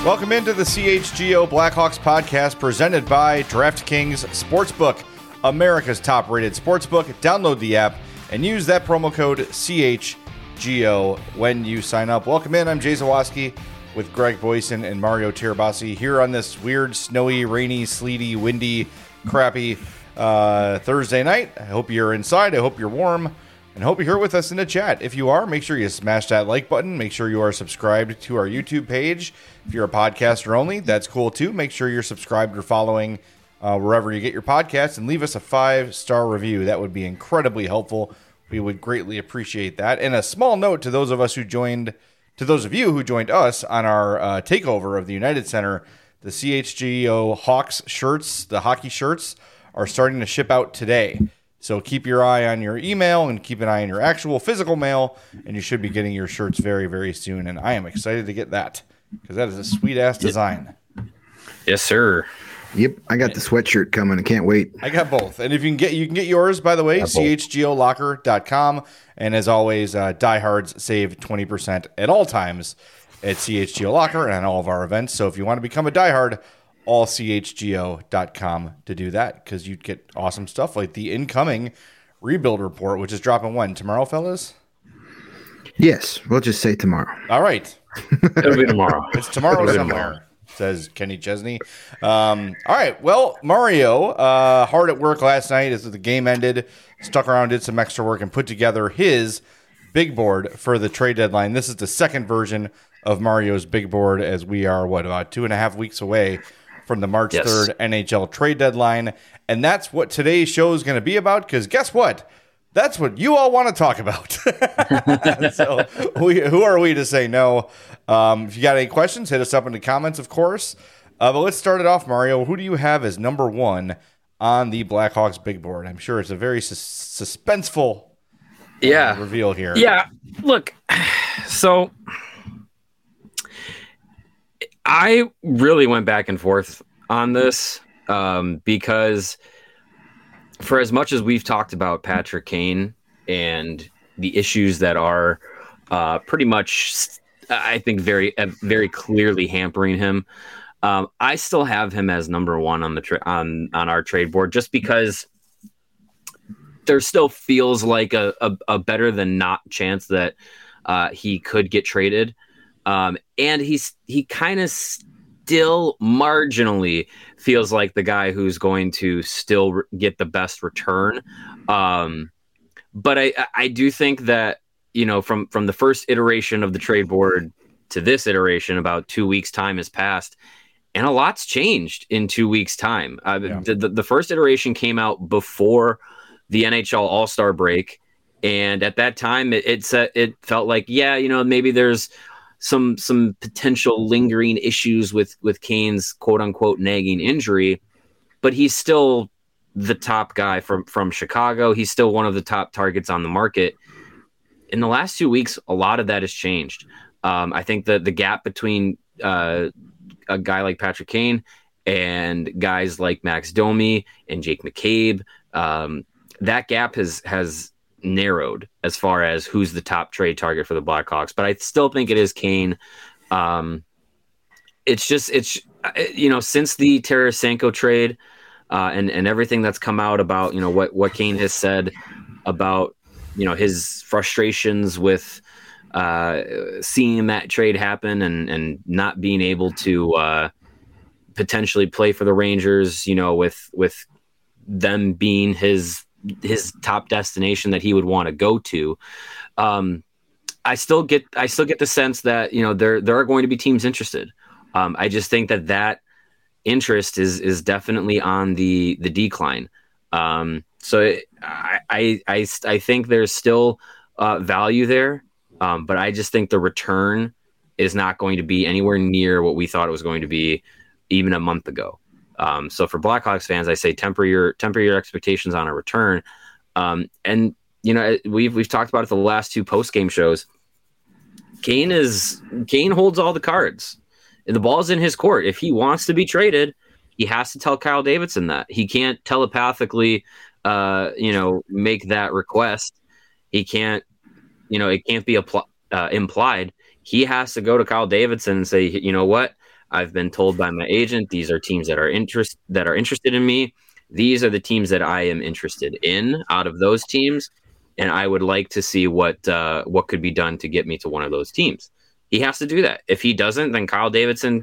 Welcome into the CHGO Blackhawks podcast presented by DraftKings Sportsbook, America's top-rated sportsbook. Download the app and use that promo code CHGO when you sign up. Welcome in. I'm Jay Zawaski with Greg Boyson and Mario Tirabassi here on this weird, snowy, rainy, sleety, windy, crappy Thursday night. I hope you're inside. I hope you're warm. And hope you're here with us in the chat. If you are, make sure you smash that like button. Make sure you are subscribed to our YouTube page. If you're a podcaster only, that's cool too. Make sure you're subscribed or following wherever you get your podcasts, and leave us a 5-star review. That would be incredibly helpful. We would greatly appreciate that. And a small note to those of you who joined us on our takeover of the United Center, the CHGO Hawks shirts, the hockey shirts, are starting to ship out today. So keep your eye on your email and keep an eye on your actual physical mail, and you should be getting your shirts very, very soon. And I am excited to get that because that is a sweet-ass design. Yes, sir. Yep, I got the sweatshirt coming. I can't wait. I got both. And if you can get yours, by the way, chgolocker.com. And as always, diehards save 20% at all times at CHGO Locker and on all of our events. So if you want to become a diehard, allchgo.com to do that, because you'd get awesome stuff like the incoming rebuild report, which is dropping when? Tomorrow, fellas? Yes, we'll just say tomorrow. All right. It'll be tomorrow. It's tomorrow somewhere, says Kenny Chesney. All right. Well, Mario, hard at work last night as the game ended, stuck around, did some extra work, and put together his big board for the trade deadline. This is the second version of Mario's big board, as we are, about 2.5 weeks away from the March 3rd NHL trade deadline. And that's what today's show is going to be about, because guess what? That's what you all want to talk about. So who are we to say no? If you got any questions, hit us up in the comments, of course. But let's start it off, Mario. Who do you have as number one on the Blackhawks big board? I'm sure it's a very suspenseful reveal here. Yeah, look, so I really went back and forth on this because for as much as we've talked about Patrick Kane and the issues that are pretty much, I think, very clearly hampering him, I still have him as number one on the on our trade board, just because there still feels like a better than not chance that he could get traded. And he kind of still marginally feels like the guy who's going to still get the best return. But I do think that, from the first iteration of the trade board to this iteration, about 2 weeks time has passed, and a lot's changed in 2 weeks time. The first iteration came out before the NHL All-Star break. And at that time it felt like, maybe there's some potential lingering issues with Kane's quote unquote nagging injury, but he's still the top guy from Chicago. He's still one of the top targets on the market. In the last 2 weeks, a lot of that has changed. I think that the gap between a guy like Patrick Kane and guys like Max Domi and Jake McCabe, that gap has narrowed as far as who's the top trade target for the Blackhawks, but I still think it is Kane. It's since the Tarasenko trade and everything that's come out about what Kane has said about his frustrations with seeing that trade happen and not being able to potentially play for the Rangers, with them being his top destination that he would want to go to. I still get the sense that there are going to be teams interested. I just think that interest is definitely on the decline. So I think there's still value there, but I just think the return is not going to be anywhere near what we thought it was going to be even a month ago. So for Blackhawks fans, I say temper your expectations on a return. And we've talked about it the last two post-game shows. Kane holds all the cards, and the ball's in his court. If he wants to be traded, he has to tell Kyle Davidson that. He can't telepathically, make that request. He can't, it can't be implied. He has to go to Kyle Davidson and say, you know what? I've been told by my agent these are teams that are interested in me. These are the teams that I am interested in out of those teams, and I would like to see what could be done to get me to one of those teams. He has to do that. If he doesn't, then Kyle Davidson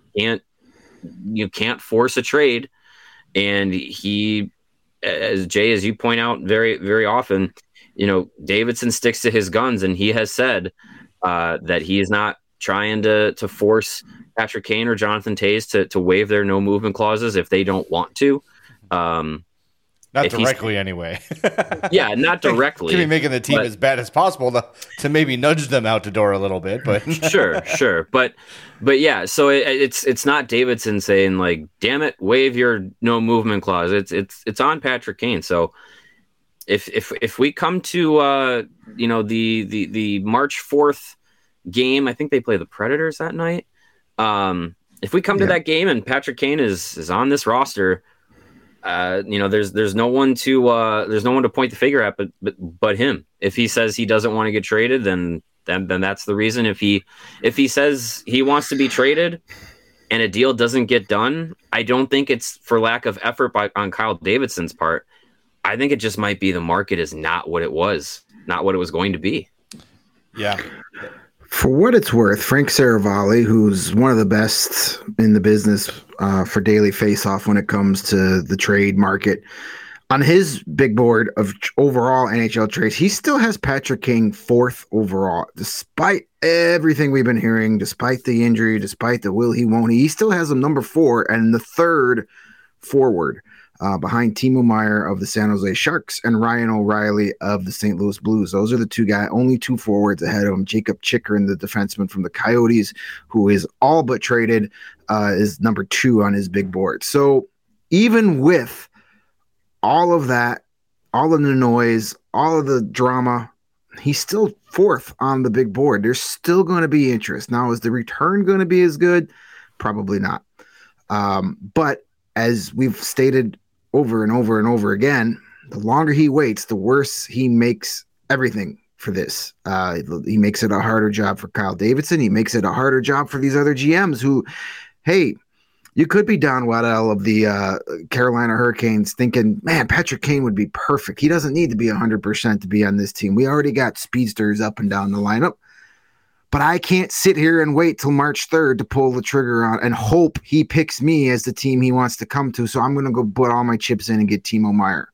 can't force a trade, and he, as Jay, as you point out very, very often, Davidson sticks to his guns, and he has said that he is not trying to force Patrick Kane or Jonathan Toews to waive their no movement clauses if they don't want to. Not directly, anyway. Yeah, not directly. Could be making the team as bad as possible to maybe nudge them out the door a little bit, but sure. But yeah, so it's not Davidson saying like, "Damn it, waive your no movement clause." It's on Patrick Kane. So if we come to the March 4th game, I think they play the Predators that night. If we come to that game and Patrick Kane is on this roster, there's no one to point the finger at but him. If he says he doesn't want to get traded, then that's the reason. If he says he wants to be traded and a deal doesn't get done, I don't think it's for lack of effort on Kyle Davidson's part. I think it just might be the market is not what it was going to be. Yeah. For what it's worth, Frank Saravalli, who's one of the best in the business for daily face-off when it comes to the trade market, on his big board of overall NHL trades, he still has Patrick Kane 4th overall, despite everything we've been hearing, despite the injury, despite the will he won't he still has him number 4 and the 3rd forward. Behind Timo Meier of the San Jose Sharks and Ryan O'Reilly of the St. Louis Blues. Those are the only 2 forwards ahead of him. Jacob Chychrun, the defenseman from the Coyotes, who is all but traded, is number 2 on his big board. So even with all of that, all of the noise, all of the drama, he's still 4th on the big board. There's still going to be interest. Now, is the return going to be as good? Probably not. But as we've stated over and over and over again, the longer he waits, the worse he makes everything for this. He makes it a harder job for Kyle Davidson. He makes it a harder job for these other GMs who, hey, you could be Don Waddell of the Carolina Hurricanes thinking, man, Patrick Kane would be perfect. He doesn't need to be 100% to be on this team. We already got speedsters up and down the lineup. But I can't sit here and wait till March 3rd to pull the trigger on and hope he picks me as the team he wants to come to. So I'm going to go put all my chips in and get Timo Meier.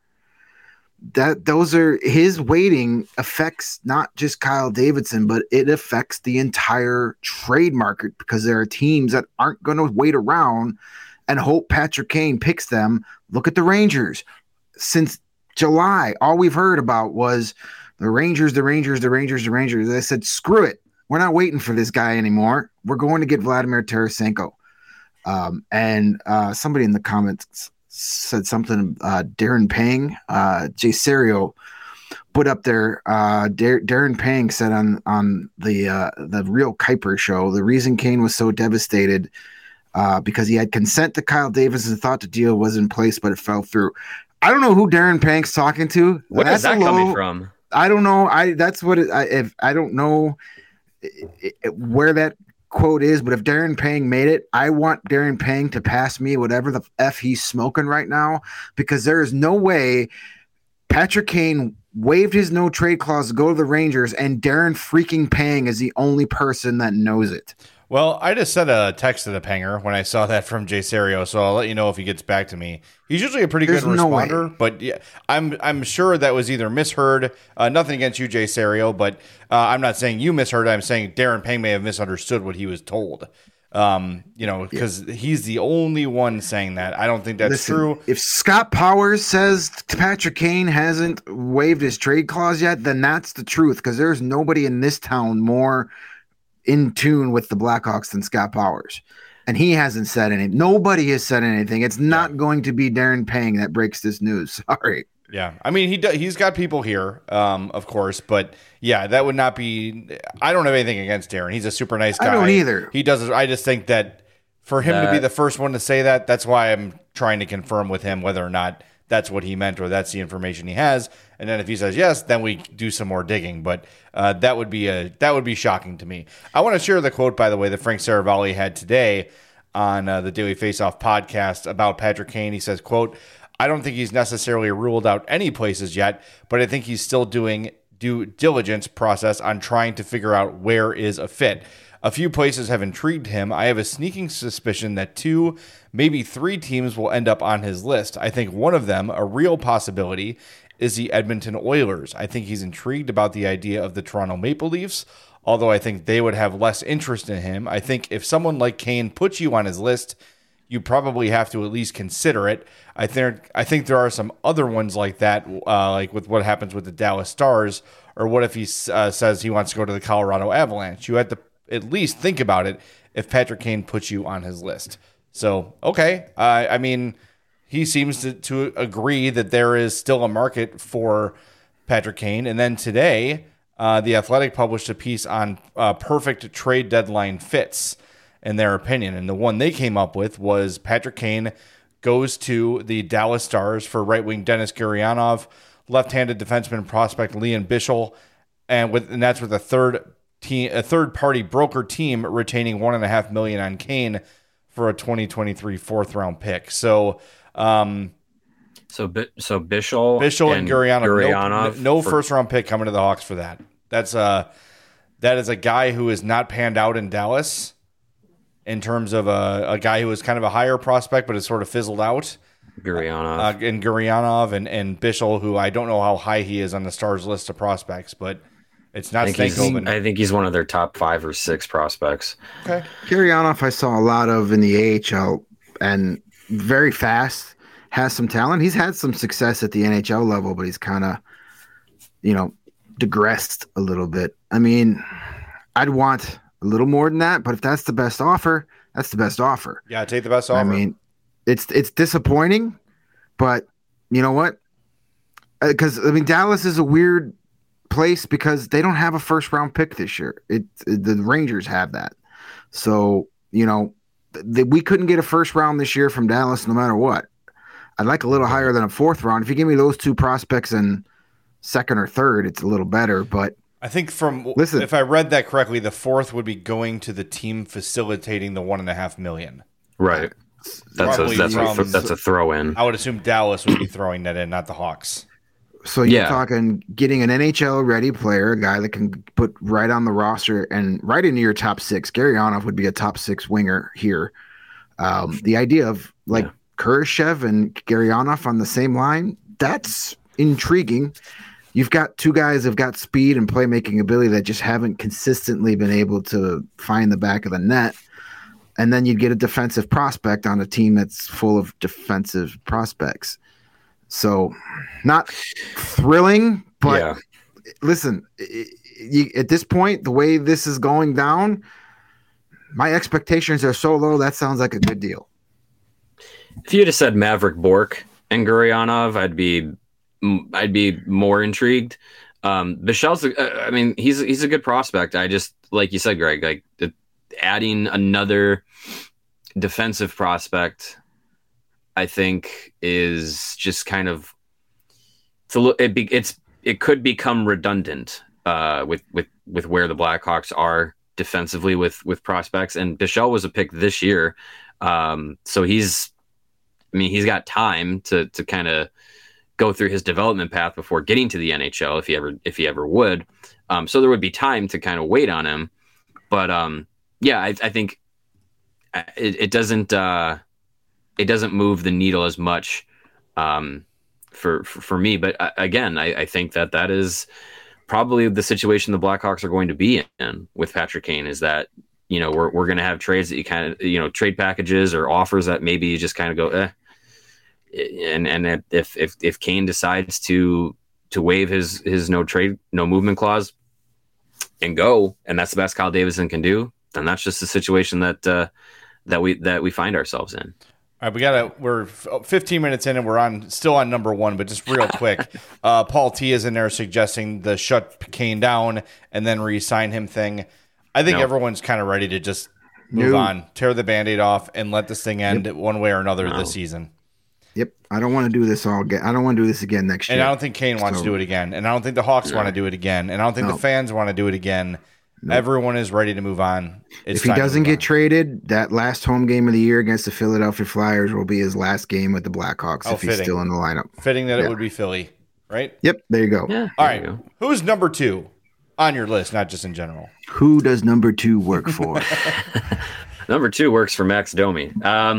Those are his waiting affects not just Kyle Davidson, but it affects the entire trade market because there are teams that aren't going to wait around and hope Patrick Kane picks them. Look at the Rangers. Since July, all we've heard about was the Rangers. I said, screw it. We're not waiting for this guy anymore. We're going to get Vladimir Tarasenko. And somebody in the comments said something, Darren Pang, Jay Serio put up there. Darren Pang said on the Real Kuiper show, the reason Kane was so devastated because he had consent to Kyle Davidson, thought the deal was in place, but it fell through. I don't know who Darren Pang's talking to. Where is that coming from? I don't know. I don't know where that quote is, but if Darren Pang made it, I want Darren Pang to pass me whatever the F he's smoking right now, because there is no way Patrick Kane waived his no trade clause to go to the Rangers and Darren freaking Pang is the only person that knows it. Well, I just sent a text to the Panger when I saw that from Jay Serio, so I'll let you know if he gets back to me. He's usually a pretty good responder, but yeah, I'm sure that was either misheard. Nothing against you, Jay Serio, but I'm not saying you misheard. I'm saying Darren Pang may have misunderstood what he was told. Because he's the only one saying that. I don't think that's true. If Scott Powers says Patrick Kane hasn't waived his trade clause yet, then that's the truth, because there's nobody in this town more in tune with the Blackhawks than Scott Powers. And he hasn't said anything. Nobody has said anything. It's not going to be Darren Pang that breaks this news. Sorry. Yeah. I mean, he's got people here, of course, but yeah, that would not be, I don't have anything against Darren. He's a super nice guy. I don't either. He does. I just think that for him to be the first one to say that, that's why I'm trying to confirm with him whether or not that's what he meant or that's the information he has. And then if he says yes, then we do some more digging. But that would be shocking to me. I want to share the quote, by the way, that Frank Saravalli had today on the Daily Faceoff podcast about Patrick Kane. He says, quote, I don't think he's necessarily ruled out any places yet, but I think he's still doing due diligence process on trying to figure out where is a fit. A few places have intrigued him. I have a sneaking suspicion that 2, maybe 3 teams will end up on his list. I think one of them, a real possibility, is the Edmonton Oilers. I think he's intrigued about the idea of the Toronto Maple Leafs, although I think they would have less interest in him. I think if someone like Kane puts you on his list, you probably have to at least consider it. I think there are some other ones like that, like with what happens with the Dallas Stars, or what if he says he wants to go to the Colorado Avalanche. You have to at least think about it if Patrick Kane puts you on his list. So, okay. I mean, he seems to agree that there is still a market for Patrick Kane. And then today, The Athletic published a piece on perfect trade deadline fits, in their opinion. And the one they came up with was Patrick Kane goes to the Dallas Stars for right wing Denis Gurianov, left-handed defenseman prospect Liam Bichsel, and that's with a third party broker team retaining $1.5 million on Kane for a 2023 fourth round pick. So Bichsel and Gurianov, no first round pick coming to the Hawks for that. That is a guy who is not panned out in Dallas in terms of a guy who was kind of a higher prospect but has sort of fizzled out. Gurianov and Bichsel, who I don't know how high he is on the Stars list of prospects, but it's not Stankoven. I think he's one of their top 5 or 6 prospects. Okay. Gurianov I saw a lot of in the AHL and very fast, has some talent. He's had some success at the NHL level, but he's kind of, digressed a little bit. I mean, I'd want a little more than that, but if that's the best offer, that's the best offer. Yeah, take the best offer. I mean, it's disappointing, but you know what? Because Dallas is a weird place because they don't have a first round pick this year. The Rangers have that, so we couldn't get a first round this year from Dallas no matter what. I'd like a little higher than a fourth round. If you give me those 2 prospects in second or third, it's a little better. But I think if I read that correctly, the fourth would be going to the team facilitating the $1.5 million. Right. That's a throw in. I would assume Dallas would be throwing that in, not the Hawks. So you're talking getting an NHL ready player, a guy that can put right on the roster and right into your top 6. Gurianov would be a top 6 winger here. The idea of Kurashev and Gurianov on the same line, that's intriguing. You've got 2 guys who've got speed and playmaking ability that just haven't consistently been able to find the back of the net. And then you'd get a defensive prospect on a team that's full of defensive prospects. So not thrilling, but listen, at this point, the way this is going down, my expectations are so low, that sounds like a good deal. If you had said Maverick Bourque and Gurianov, I'd be more intrigued. Bichel's, he's a good prospect. I just, like you said, Greg, adding another defensive prospect, I think, is just kind of it could become redundant with where the Blackhawks are defensively with prospects. And Bichel was a pick this year, so he's got time to kind of go through his development path before getting to the NHL if he ever would. So there would be time to kind of wait on him. But I think it doesn't move the needle as much for me. But again, I think that is probably the situation the Blackhawks are going to be in with Patrick Kane, is that we're going to have trades that you kind of trade packages or offers that maybe you just kind of go and if Kane decides to waive his no movement clause and go, and that's the best Kyle Davidson can do, then that's just the situation that we find ourselves in. All right, we're 15 minutes in and we're still on number 1, but just real quick, Paul T is in there suggesting the shut Kane down and then re-sign him thing. I think everyone's kind of ready to just move on, tear the Band-Aid off, and let this thing end one way or another this season. Yep, I don't want to do this all again. I don't want to do this again next year. And I don't think Kane wants to do it again. And I don't think the Hawks want to do it again. And I don't think the fans want to do it again. Everyone is ready to move on. If he doesn't get traded, that last home game of the year against the Philadelphia Flyers will be his last game with the Blackhawks if he's still in the lineup. Fitting that it would be Philly, right? Yep, there you go. Yeah, all right. Who's number 2 on your list, not just in general? Who does number 2 work for? Number 2 works for Max Domi.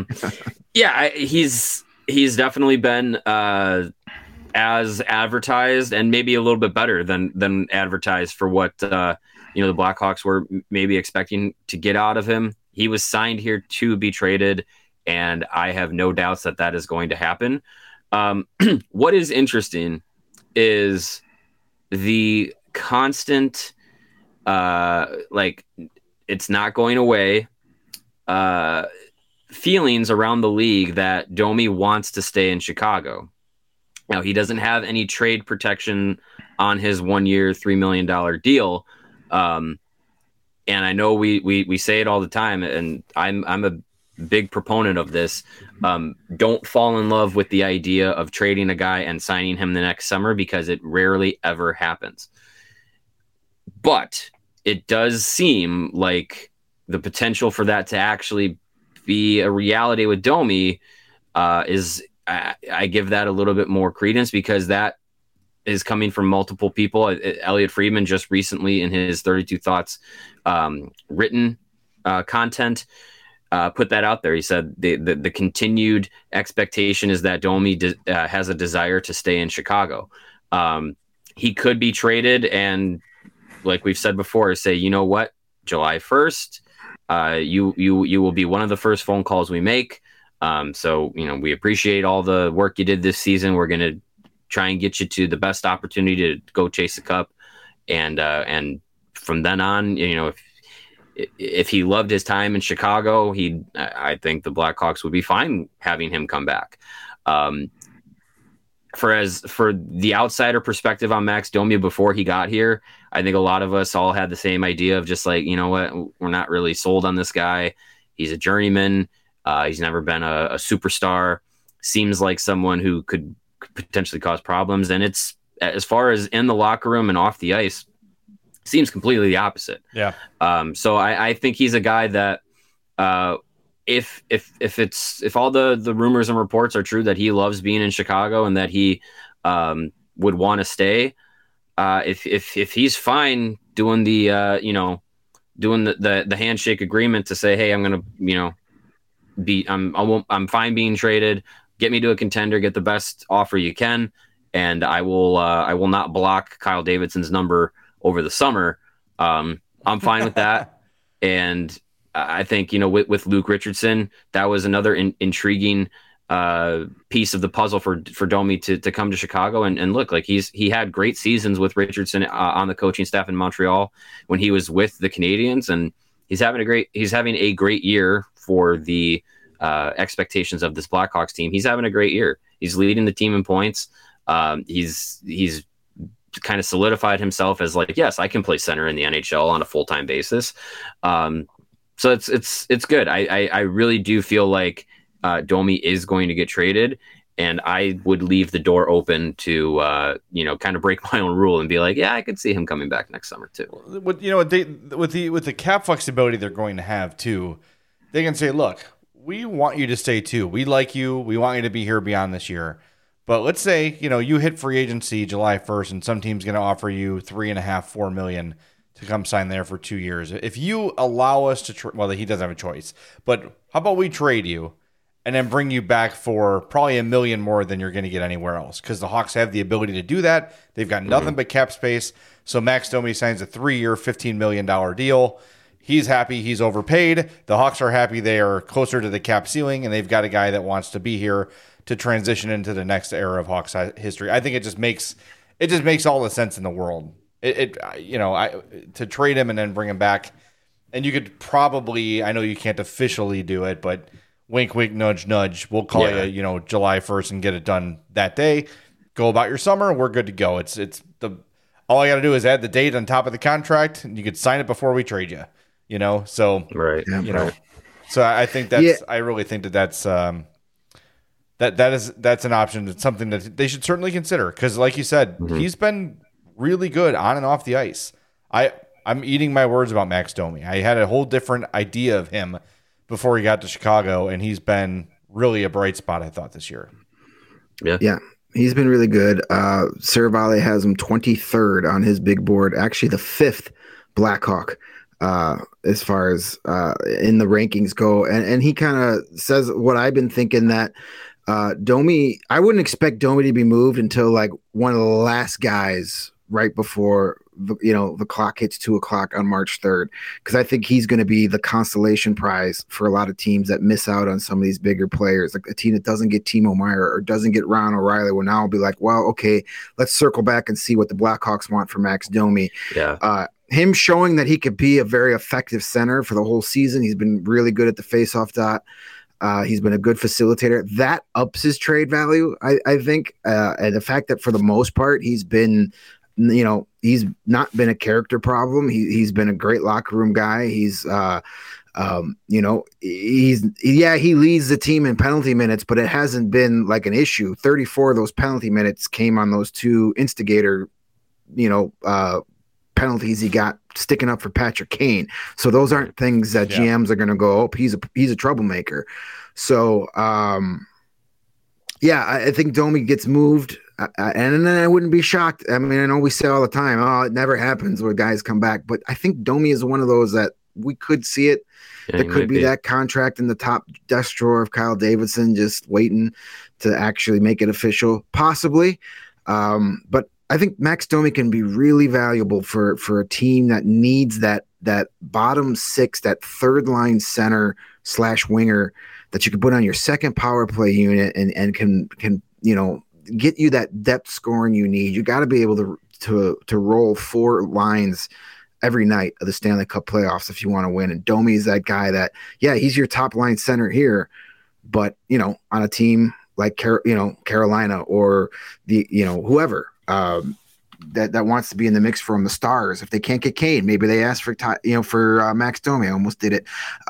He's definitely been as advertised and maybe a little bit better than advertised for what the Blackhawks were maybe expecting to get out of him. He was signed here to be traded, and I have no doubts that is going to happen. What is interesting is the constant, it's not going away, feelings around the league that Domi wants to stay in Chicago. Now, he doesn't have any trade protection on his 1-year, $3 million deal. And I know we say it all the time, and I'm a big proponent of this. Don't fall in love with the idea of trading a guy and signing him the next summer, because it rarely ever happens. But it does seem like the potential for that to actually be a reality with Domi is I give that a little bit more credence, because that is coming from multiple people. Elliot Friedman just recently in his 32 Thoughts written content put that out there. He said the continued expectation is that Domi has a desire to stay in Chicago. He could be traded, and like we've said before, say, you know what, July 1st, you will be one of the first phone calls we make. So, we appreciate all the work you did this season. We're going to try and get you to the best opportunity to go chase the cup. And from then on, if he loved his time in Chicago, I think the Blackhawks would be fine having him come back. For the outsider perspective on Max Domi before he got here, I think a lot of us all had the same idea of just like, you know what, we're not really sold on this guy. He's a journeyman. He's never been a superstar. Seems like someone who could potentially cause problems. And it's, as far as in the locker room and off the ice, seems completely the opposite. Yeah. So I think he's a guy that if all the rumors and reports are true that he loves being in Chicago and that he would want to stay, if he's fine doing the handshake agreement to say, hey, I'm going to, I'm fine being traded, get me to a contender, get the best offer you can, and I will not block Kyle Davidson's number over the summer. I'm fine with that. And I think, with Luke Richardson, that was another intriguing piece of the puzzle for Domi to come to Chicago and look like he had great seasons with Richardson on the coaching staff in Montreal when he was with the Canadiens, and he's having a great year for the expectations of this Blackhawks team. He's having a great year. He's leading the team in points. He's kind of solidified himself as like, yes, I can play center in the NHL on a full-time basis. So it's good. I really do feel like Domi is going to get traded, and I would leave the door open to kind of break my own rule and be like, yeah, I could see him coming back next summer too. With the cap flexibility they're going to have too, they can say, look, we want you to stay too. We like you. We want you to be here beyond this year. But let's say, you hit free agency July 1st and some team's going to offer you $3.5-4 million to come sign there for 2 years. If you allow us to, well, he doesn't have a choice, but how about we trade you and then bring you back for probably $1 million more than you're going to get anywhere else? Because the Hawks have the ability to do that. They've got nothing but cap space. So Max Domi signs a 3-year, $15 million deal. He's happy. He's overpaid. The Hawks are happy. They are closer to the cap ceiling, and they've got a guy that wants to be here to transition into the next era of Hawks history. I think it just makes all the sense in the world. To trade him and then bring him back, and you could probably, I know you can't officially do it, but wink, wink, nudge, nudge. We'll call you, July 1st and get it done that day. Go about your summer. We're good to go. All I got to do is add the date on top of the contract, and you could sign it before we trade you. So right. So I think I really think that's that's an option. It's something that they should certainly consider, because like you said, he's been really good on and off the ice. I'm eating my words about Max Domi. I had a whole different idea of him before he got to Chicago, and he's been really a bright spot, I thought, this year. Yeah. He's been really good. Saravalli has him 23rd on his big board, actually the 5th Blackhawk as far as in the rankings go. And he kind of says what I've been thinking, that Domi, I wouldn't expect Domi to be moved until like one of the last guys right before the clock hits 2:00 on March 3rd, because I think he's going to be the consolation prize for a lot of teams that miss out on some of these bigger players. Like a team that doesn't get Timo Meier or doesn't get Ron O'Reilly will now be like, well, okay, let's circle back and see what the Blackhawks want for Max Domi. Yeah. Him showing that he could be a very effective center for the whole season. He's been really good at the faceoff dot. He's been a good facilitator. That ups his trade value, I think. And the fact that for the most part, he's been, he's not been a character problem. He's been a great locker room guy. He leads the team in penalty minutes, but it hasn't been like an issue. 34 of those penalty minutes came on those 2 instigator, penalties he got sticking up for Patrick Kane. So those aren't things that GMs are going to go, oh, he's a troublemaker. So, I think Domi gets moved. And then I wouldn't be shocked. I mean, I know we say all the time, oh, it never happens where guys come back. But I think Domi is one of those that we could see it. Yeah, there could be that contract in the top desk drawer of Kyle Davidson just waiting to actually make it official, possibly. But I think Max Domi can be really valuable for a team that needs that bottom 6, that third line center / winger that you can put on your second power play unit and can get you that depth scoring you need. You got to be able to roll 4 lines every night of the Stanley Cup playoffs if you want to win. And Domi is that guy that, he's your top line center here, but on a team like Carolina or the whoever that wants to be in the mix from the Stars. If they can't get Kane, maybe they ask for Max Domi. I almost did it.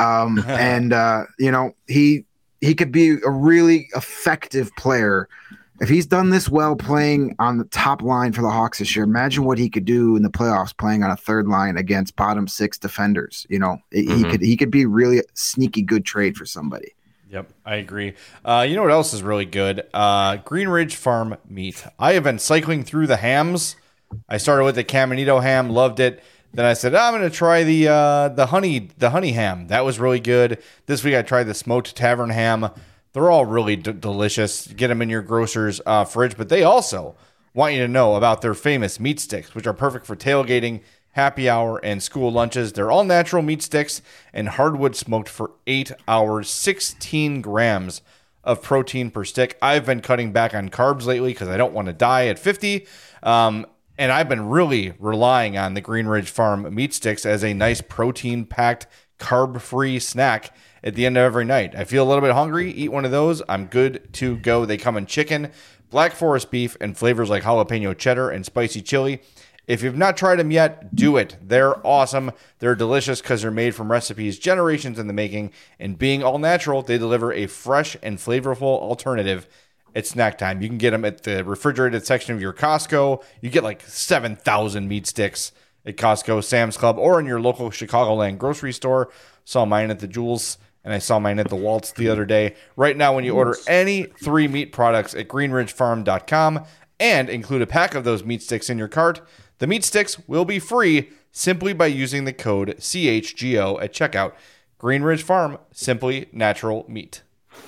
He could be a really effective player. If he's done this well playing on the top line for the Hawks this year, imagine what he could do in the playoffs playing on a third line against bottom 6 defenders. He could be really a sneaky good trade for somebody. Yep, I agree. You know what else is really good? Green Ridge Farm meat. I have been cycling through the hams. I started with the Caminito ham, loved it. Then I said, I'm going to try the honey ham. That was really good. This week I tried the smoked tavern ham. They're all really delicious. Get them in your grocer's fridge. But they also want you to know about their famous meat sticks, which are perfect for tailgating, happy hour, and school lunches. They're all natural meat sticks and hardwood smoked for 8 hours, 16 grams of protein per stick. I've been cutting back on carbs lately because I don't want to die at 50. And I've been really relying on the Green Ridge Farm meat sticks as a nice protein-packed, carb-free snack at the end of every night. I feel a little bit hungry, eat one of those, I'm good to go. They come in chicken, Black Forest beef, and flavors like jalapeno cheddar and spicy chili. If you've not tried them yet, do it. They're awesome. They're delicious because they're made from recipes generations in the making, and being all natural, they deliver a fresh and flavorful alternative at snack time. You can get them at the refrigerated section of your Costco. You get like 7,000 meat sticks at Costco, Sam's Club, or in your local Chicagoland grocery store. Saw mine at the Jewels, and I saw mine at the Waltz the other day. Right now, when you order any 3 meat products at greenridgefarm.com and include a pack of those meat sticks in your cart, the meat sticks will be free simply by using the code CHGO at checkout. Green Ridge Farm, simply natural meat.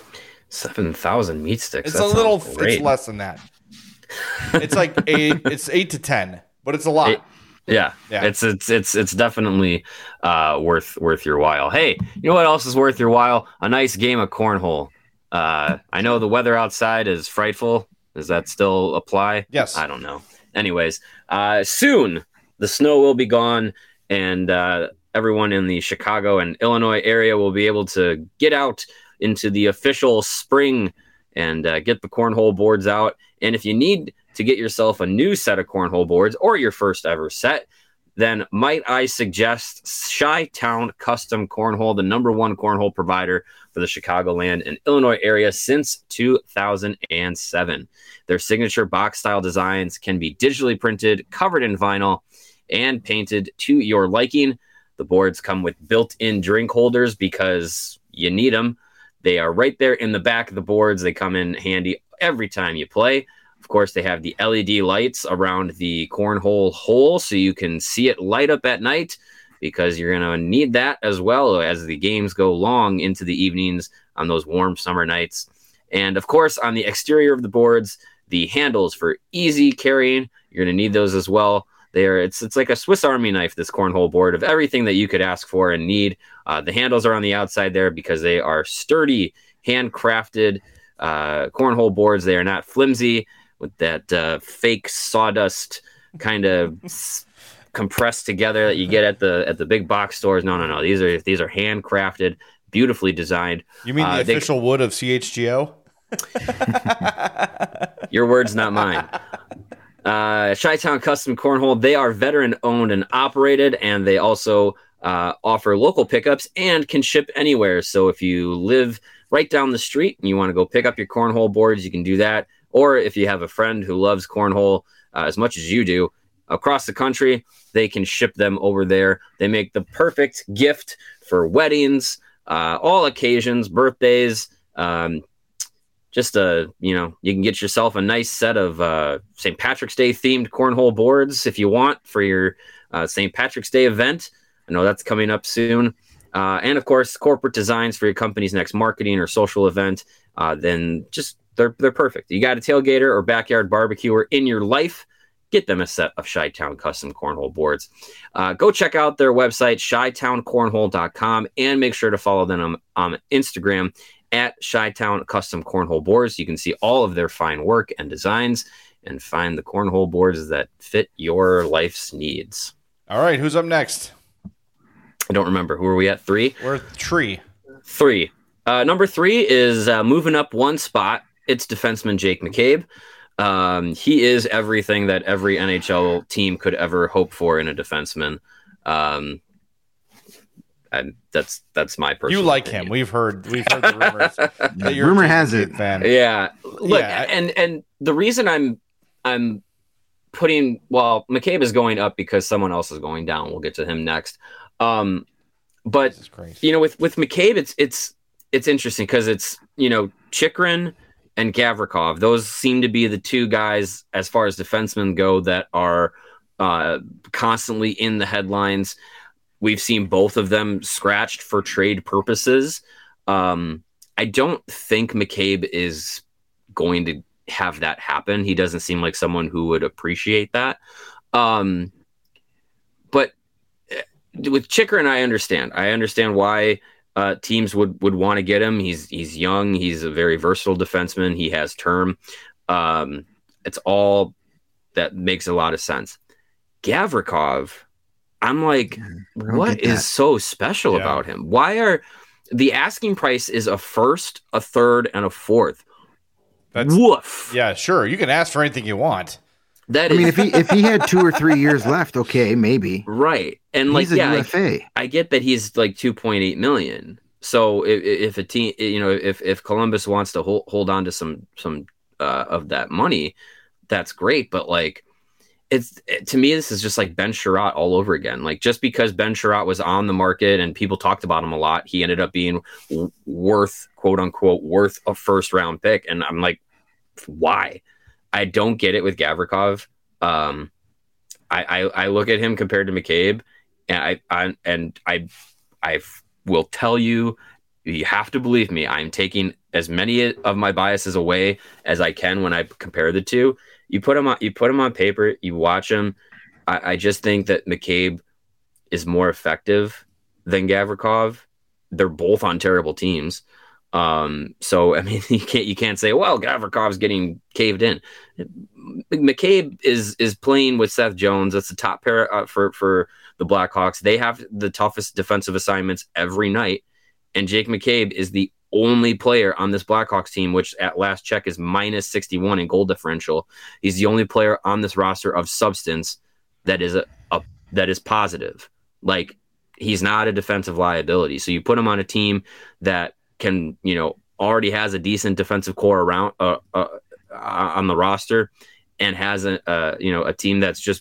7,000 meat sticks. It's a little. It's less than that. It's like 8. It's 8 to 10, but it's a lot. Yeah. It's definitely worth your while. Hey, you know what else is worth your while? A nice game of cornhole. I know the weather outside is frightful. Does that still apply? Yes. I don't know. Anyways, soon the snow will be gone, and everyone in the Chicago and Illinois area will be able to get out into the official spring and get the cornhole boards out. And if you need to get yourself a new set of cornhole boards or your first ever set, then might I suggest Chi-Town Custom Cornhole, the #1 cornhole provider for the Chicagoland and Illinois area since 2007. Their signature box-style designs can be digitally printed, covered in vinyl, and painted to your liking. The boards come with built-in drink holders because you need them. They are right there in the back of the boards. They come in handy every time you play. Of course, they have the LED lights around the cornhole hole so you can see it light up at night, because you're going to need that as well as the games go long into the evenings on those warm summer nights. And of course, on the exterior of the boards, the handles for easy carrying, you're going to need those as well. It's like a Swiss Army knife, this cornhole board, of everything that you could ask for and need. The handles are on the outside there because they are sturdy, handcrafted cornhole boards. They are not flimsy with that fake sawdust kind of compressed together that you get at the big box stores. No. These are handcrafted, beautifully designed. You mean the official wood of CHGO? Your words, not mine. Chi-Town Custom Cornhole, they are veteran owned and operated, and they also offer local pickups and can ship anywhere. So if you live right down the street and you want to go pick up your cornhole boards, you can do that. Or if you have a friend who loves cornhole as much as you do across the country, they can ship them over there. They make the perfect gift for weddings, all occasions, birthdays. You can get yourself a nice set of St. Patrick's Day themed cornhole boards if you want for your St. Patrick's Day event. I know that's coming up soon. And of course, corporate designs for your company's next marketing or social event. Then just they're perfect. You got a tailgater or backyard barbecuer in your life, get them a set of Chi-Town Custom Cornhole boards. Go check out their website, chitowncornhole.com, and make sure to follow them on Instagram at Chi-Town Custom Cornhole Boards. You can see all of their fine work and designs and find the cornhole boards that fit your life's needs. All right, who's up next? I don't remember. Who are we at? 3? We're 3. 3. Number 3 is moving up one spot. It's defenseman Jake McCabe. He is everything that every NHL team could ever hope for in a defenseman. And that's my personal. You like opinion. him? We've heard the rumors. That you're Rumor a has it. fan. Yeah. Look, Yeah. and the reason I'm putting McCabe is going up because someone else is going down. We'll get to him next. But with McCabe, it's interesting because it's Chychrun and Gavrikov. Those seem to be the two guys as far as defensemen go that are constantly in the headlines. We've seen both of them scratched for trade purposes. I don't think McCabe is going to have that happen. He doesn't seem like someone who would appreciate that. But with Chychrun, I understand why teams would want to get him. He's young. He's a very versatile defenseman. He has term. It's all that makes a lot of sense. Gavrikov, I'm like, what is so special about him? Why are the asking price is a first, a third, and a fourth? Woof. Yeah, sure. You can ask for anything you want. If he had 2 or 3 years left, okay, maybe. Right. And he's a UFA. I get that he's like $2.8 million. So if a team, if Columbus wants to hold on to some of that money, that's great. But like, to me, this is just like Ben Sherratt all over again. Like, just because Ben Sherratt was on the market and people talked about him a lot, he ended up being worth, quote unquote, worth a first round pick. And I'm like, why? I don't get it with Gavrikov. I look at him compared to McCabe, and I will tell you, you have to believe me. I'm taking as many of my biases away as I can when I compare the two. You put him on paper, you watch him. I just think that McCabe is more effective than Gavrikov. They're both on terrible teams. So I mean, you can't say, well, Gavrikov's getting caved in. McCabe is playing with Seth Jones. That's the top pair for the Blackhawks. They have the toughest defensive assignments every night, and Jake McCabe is the only player on this Blackhawks team, which at last check is minus 61 in goal differential. He's the only player on this roster of substance that is that is positive. Like, he's not a defensive liability. So you put him on a team that can, already has a decent defensive core around on the roster, and has a team that's just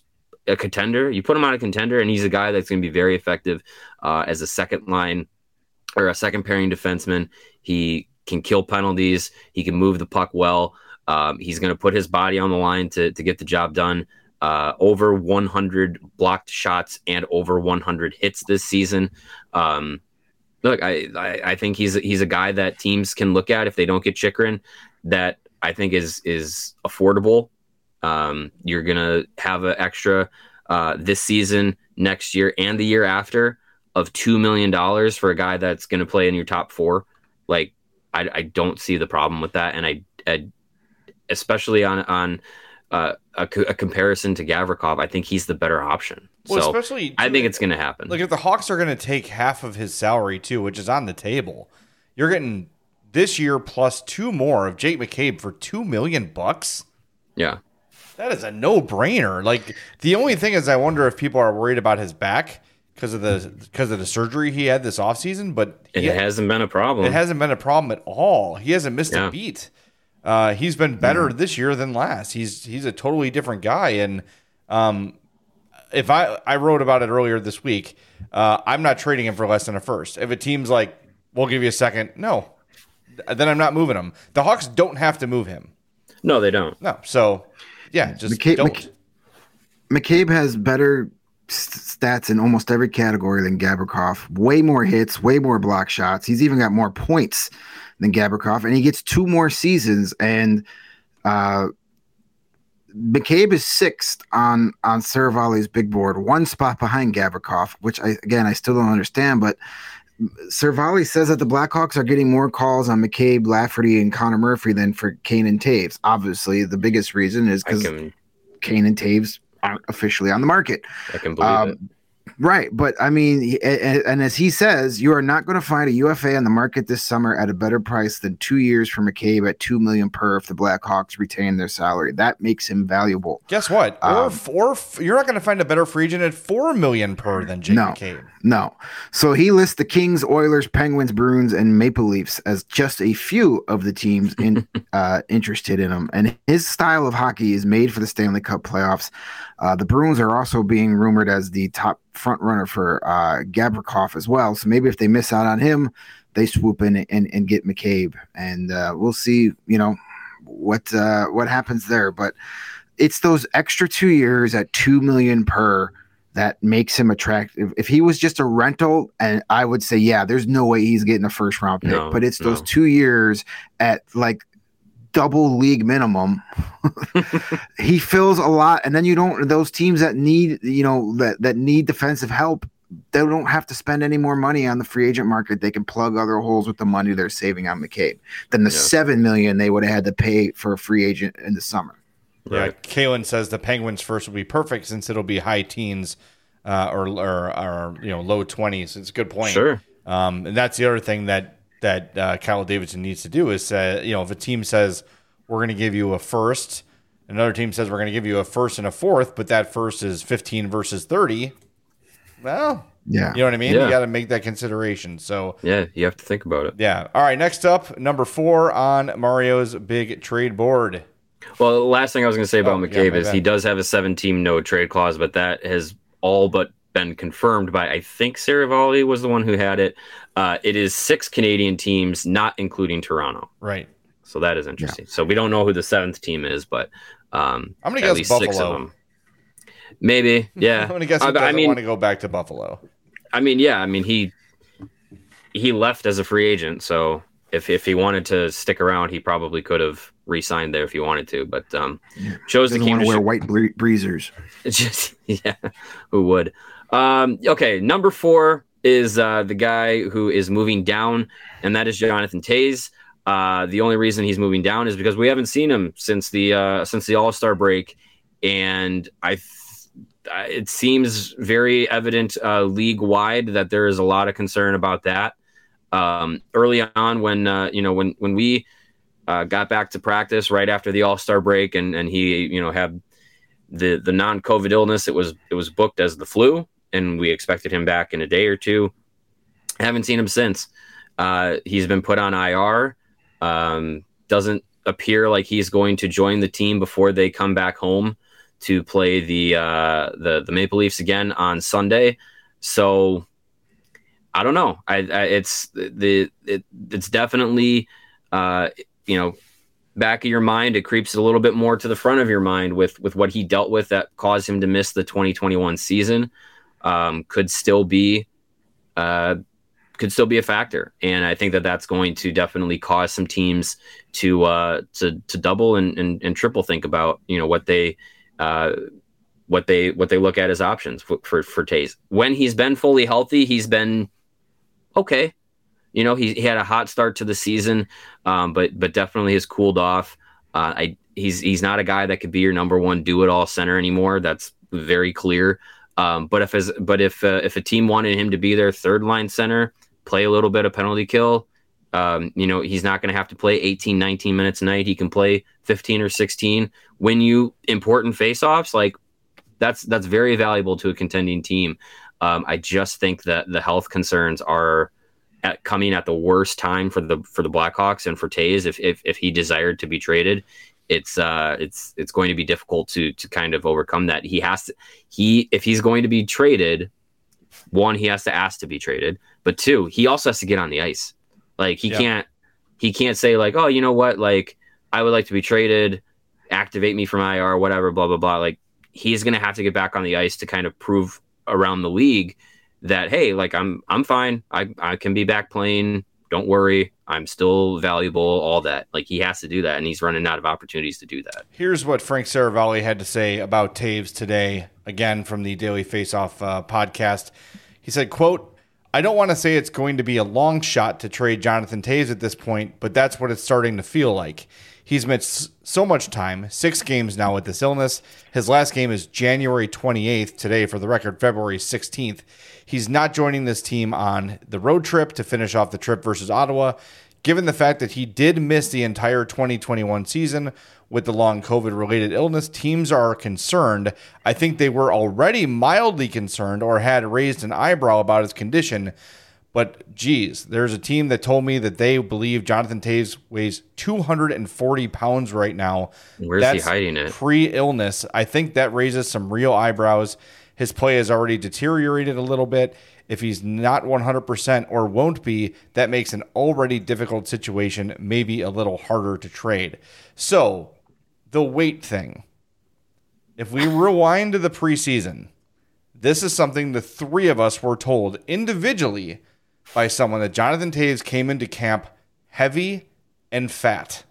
a contender. You put him on a contender, and he's a guy that's going to be very effective as a second line or a second pairing defenseman. He can kill penalties. He can move the puck well. He's going to put his body on the line to get the job done. Over 100 blocked shots and over 100 hits this season. Look, I think he's a guy that teams can look at if they don't get Chychrun. That I think is affordable. You're gonna have an extra this season, next year, and the year after of $2 million for a guy that's going to play in your top four. Like, I don't see the problem with that, and I especially on a comparison to Gavrikov, I think he's the better option. Well, so especially I think it's going to happen. Like, if the Hawks are going to take half of his salary too, which is on the table, you're getting this year plus 2 more of Jake McCabe for $2 million. Yeah, that is a no-brainer. Like, the only thing is, I wonder if people are worried about his back because of the surgery he had this offseason, but it hasn't been a problem. It hasn't been a problem at all. He hasn't missed a beat. He's been better this year than last. He's a totally different guy. And if I wrote about it earlier this week, I'm not trading him for less than a first. If a team's like, we'll give you a second, no, then I'm not moving him. The Hawks don't have to move him. No, they don't. No. So, yeah, just don't. McCabe has better stats in almost every category than Gavrikov. Way more hits, way more block shots. He's even got more points than Gavrikov, and he gets 2 more seasons. And McCabe is 6th on Saravalli's big board, 1 spot behind Gavrikov, which I still don't understand. But Saravalli says that the Blackhawks are getting more calls on McCabe, Lafferty, and Connor Murphy than for Kane and Taves. Obviously, the biggest reason is because Kane and Taves aren't officially on the market. I can believe it. Right, but I mean, and as he says, you are not going to find a UFA on the market this summer at a better price than 2 years for McCabe at $2 million per if the Blackhawks retain their salary. That makes him valuable. Guess what? Or you're not going to find a better free agent at $4 million per than Jake McCabe. No. So he lists the Kings, Oilers, Penguins, Bruins, and Maple Leafs as just a few of the teams interested in him. And his style of hockey is made for the Stanley Cup playoffs. The Bruins are also being rumored as the top front runner for Gavrikov as well. So maybe if they miss out on him, they swoop in and get McCabe, and we'll see. What happens there. But it's those extra 2 years at $2 million per that makes him attractive. If he was just a rental, and I would say, yeah, there's no way he's getting a first round pick. But it's those 2 years at like double league minimum. He fills a lot, and then those teams that need that need defensive help, they don't have to spend any more money on the free agent market. They can plug other holes with the money they're saving on McCabe than the $7 million they would have had to pay for a free agent in the summer. Yeah, Kalen says the Penguins first will be perfect since it'll be high teens or low 20s. It's a good point. Sure. And that's the other thing that Kyle Davidson needs to do is if a team says we're going to give you a first, another team says we're going to give you a first and a fourth, but that first is 15 versus 30. Well, yeah, you know what I mean? Yeah. You got to make that consideration. So yeah, you have to think about it. Yeah. All right. Next up, number 4 on Mario's big trade board. Well, the last thing I was going to say about McCabe is bad. he does have a 7-team no trade clause, but that has all but been confirmed by, I think Saravalli was the one who had it. It is 6 Canadian teams, not including Toronto. Right. So that is interesting. Yeah. So we don't know who the 7th team is, but I'm going to guess least Buffalo. 6 of them. Maybe, yeah. I'm going to guess he doesn't want to go back to Buffalo. I mean, yeah. I mean, he left as a free agent, so if he wanted to stick around, he probably could have re-signed there if he wanted to, but chose to keep wear white breezers. Just who would? Okay, number 4 is the guy who is moving down, and that is Jonathan Toews. The only reason he's moving down is because we haven't seen him since the All-Star break, and it seems very evident league-wide that there is a lot of concern about that. Early on, when we got back to practice right after the All-Star break, and he had the non-COVID illness, it was booked as the flu, and we expected him back in a day or two. Haven't seen him since. He's been put on IR. Doesn't appear like he's going to join the team before they come back home to play the Maple Leafs again on Sunday. So I don't know. It's definitely back of your mind. It creeps a little bit more to the front of your mind with what he dealt with that caused him to miss the 2021 season. Could still be a factor, and I think that's going to definitely cause some teams to double and triple think about what they look at as options for Toews. When he's been fully healthy, he's been okay. He had a hot start to the season, but definitely has cooled off. He's not a guy that could be your number one do it all center anymore. That's very clear. But if a team wanted him to be their third line center, play a little bit of penalty kill, he's not going to have to play 18, 19 minutes a night. He can play 15 or 16. Win you important faceoffs, like that's very valuable to a contending team. I just think that the health concerns are coming at the worst time for the Blackhawks and for Toews. If he desired to be traded, it's going to be difficult to kind of overcome that. If he's going to be traded, one, he has to ask to be traded, but two, he also has to get on the ice. Like he can't say like, oh, you know what? Like I would like to be traded, activate me from IR, whatever, blah, blah, blah. Like he's going to have to get back on the ice to kind of prove around the league that, hey, like I'm fine. I can be back playing. Don't worry. I'm still valuable, all that. Like he has to do that, and he's running out of opportunities to do that. Here's what Frank Saravalli had to say about Toews today, again from the Daily Faceoff podcast. He said, quote, "I don't want to say it's going to be a long shot to trade Jonathan Toews at this point, but that's what it's starting to feel like. He's missed so much time, 6 games now with this illness. His last game is January 28th, today for the record, February 16th. He's not joining this team on the road trip to finish off the trip versus Ottawa. Given the fact that he did miss the entire 2021 season with the long COVID-related illness, teams are concerned. I think they were already mildly concerned or had raised an eyebrow about his condition. But, geez, there's a team that told me that they believe Jonathan Toews weighs 240 pounds right now. Where's he hiding it? Pre-illness. I think that raises some real eyebrows. His play has already deteriorated a little bit. If he's not 100% or won't be, that makes an already difficult situation maybe a little harder to trade." So, the weight thing. If we rewind to the preseason, this is something the three of us were told individually by someone that Jonathan Toews came into camp heavy and fat.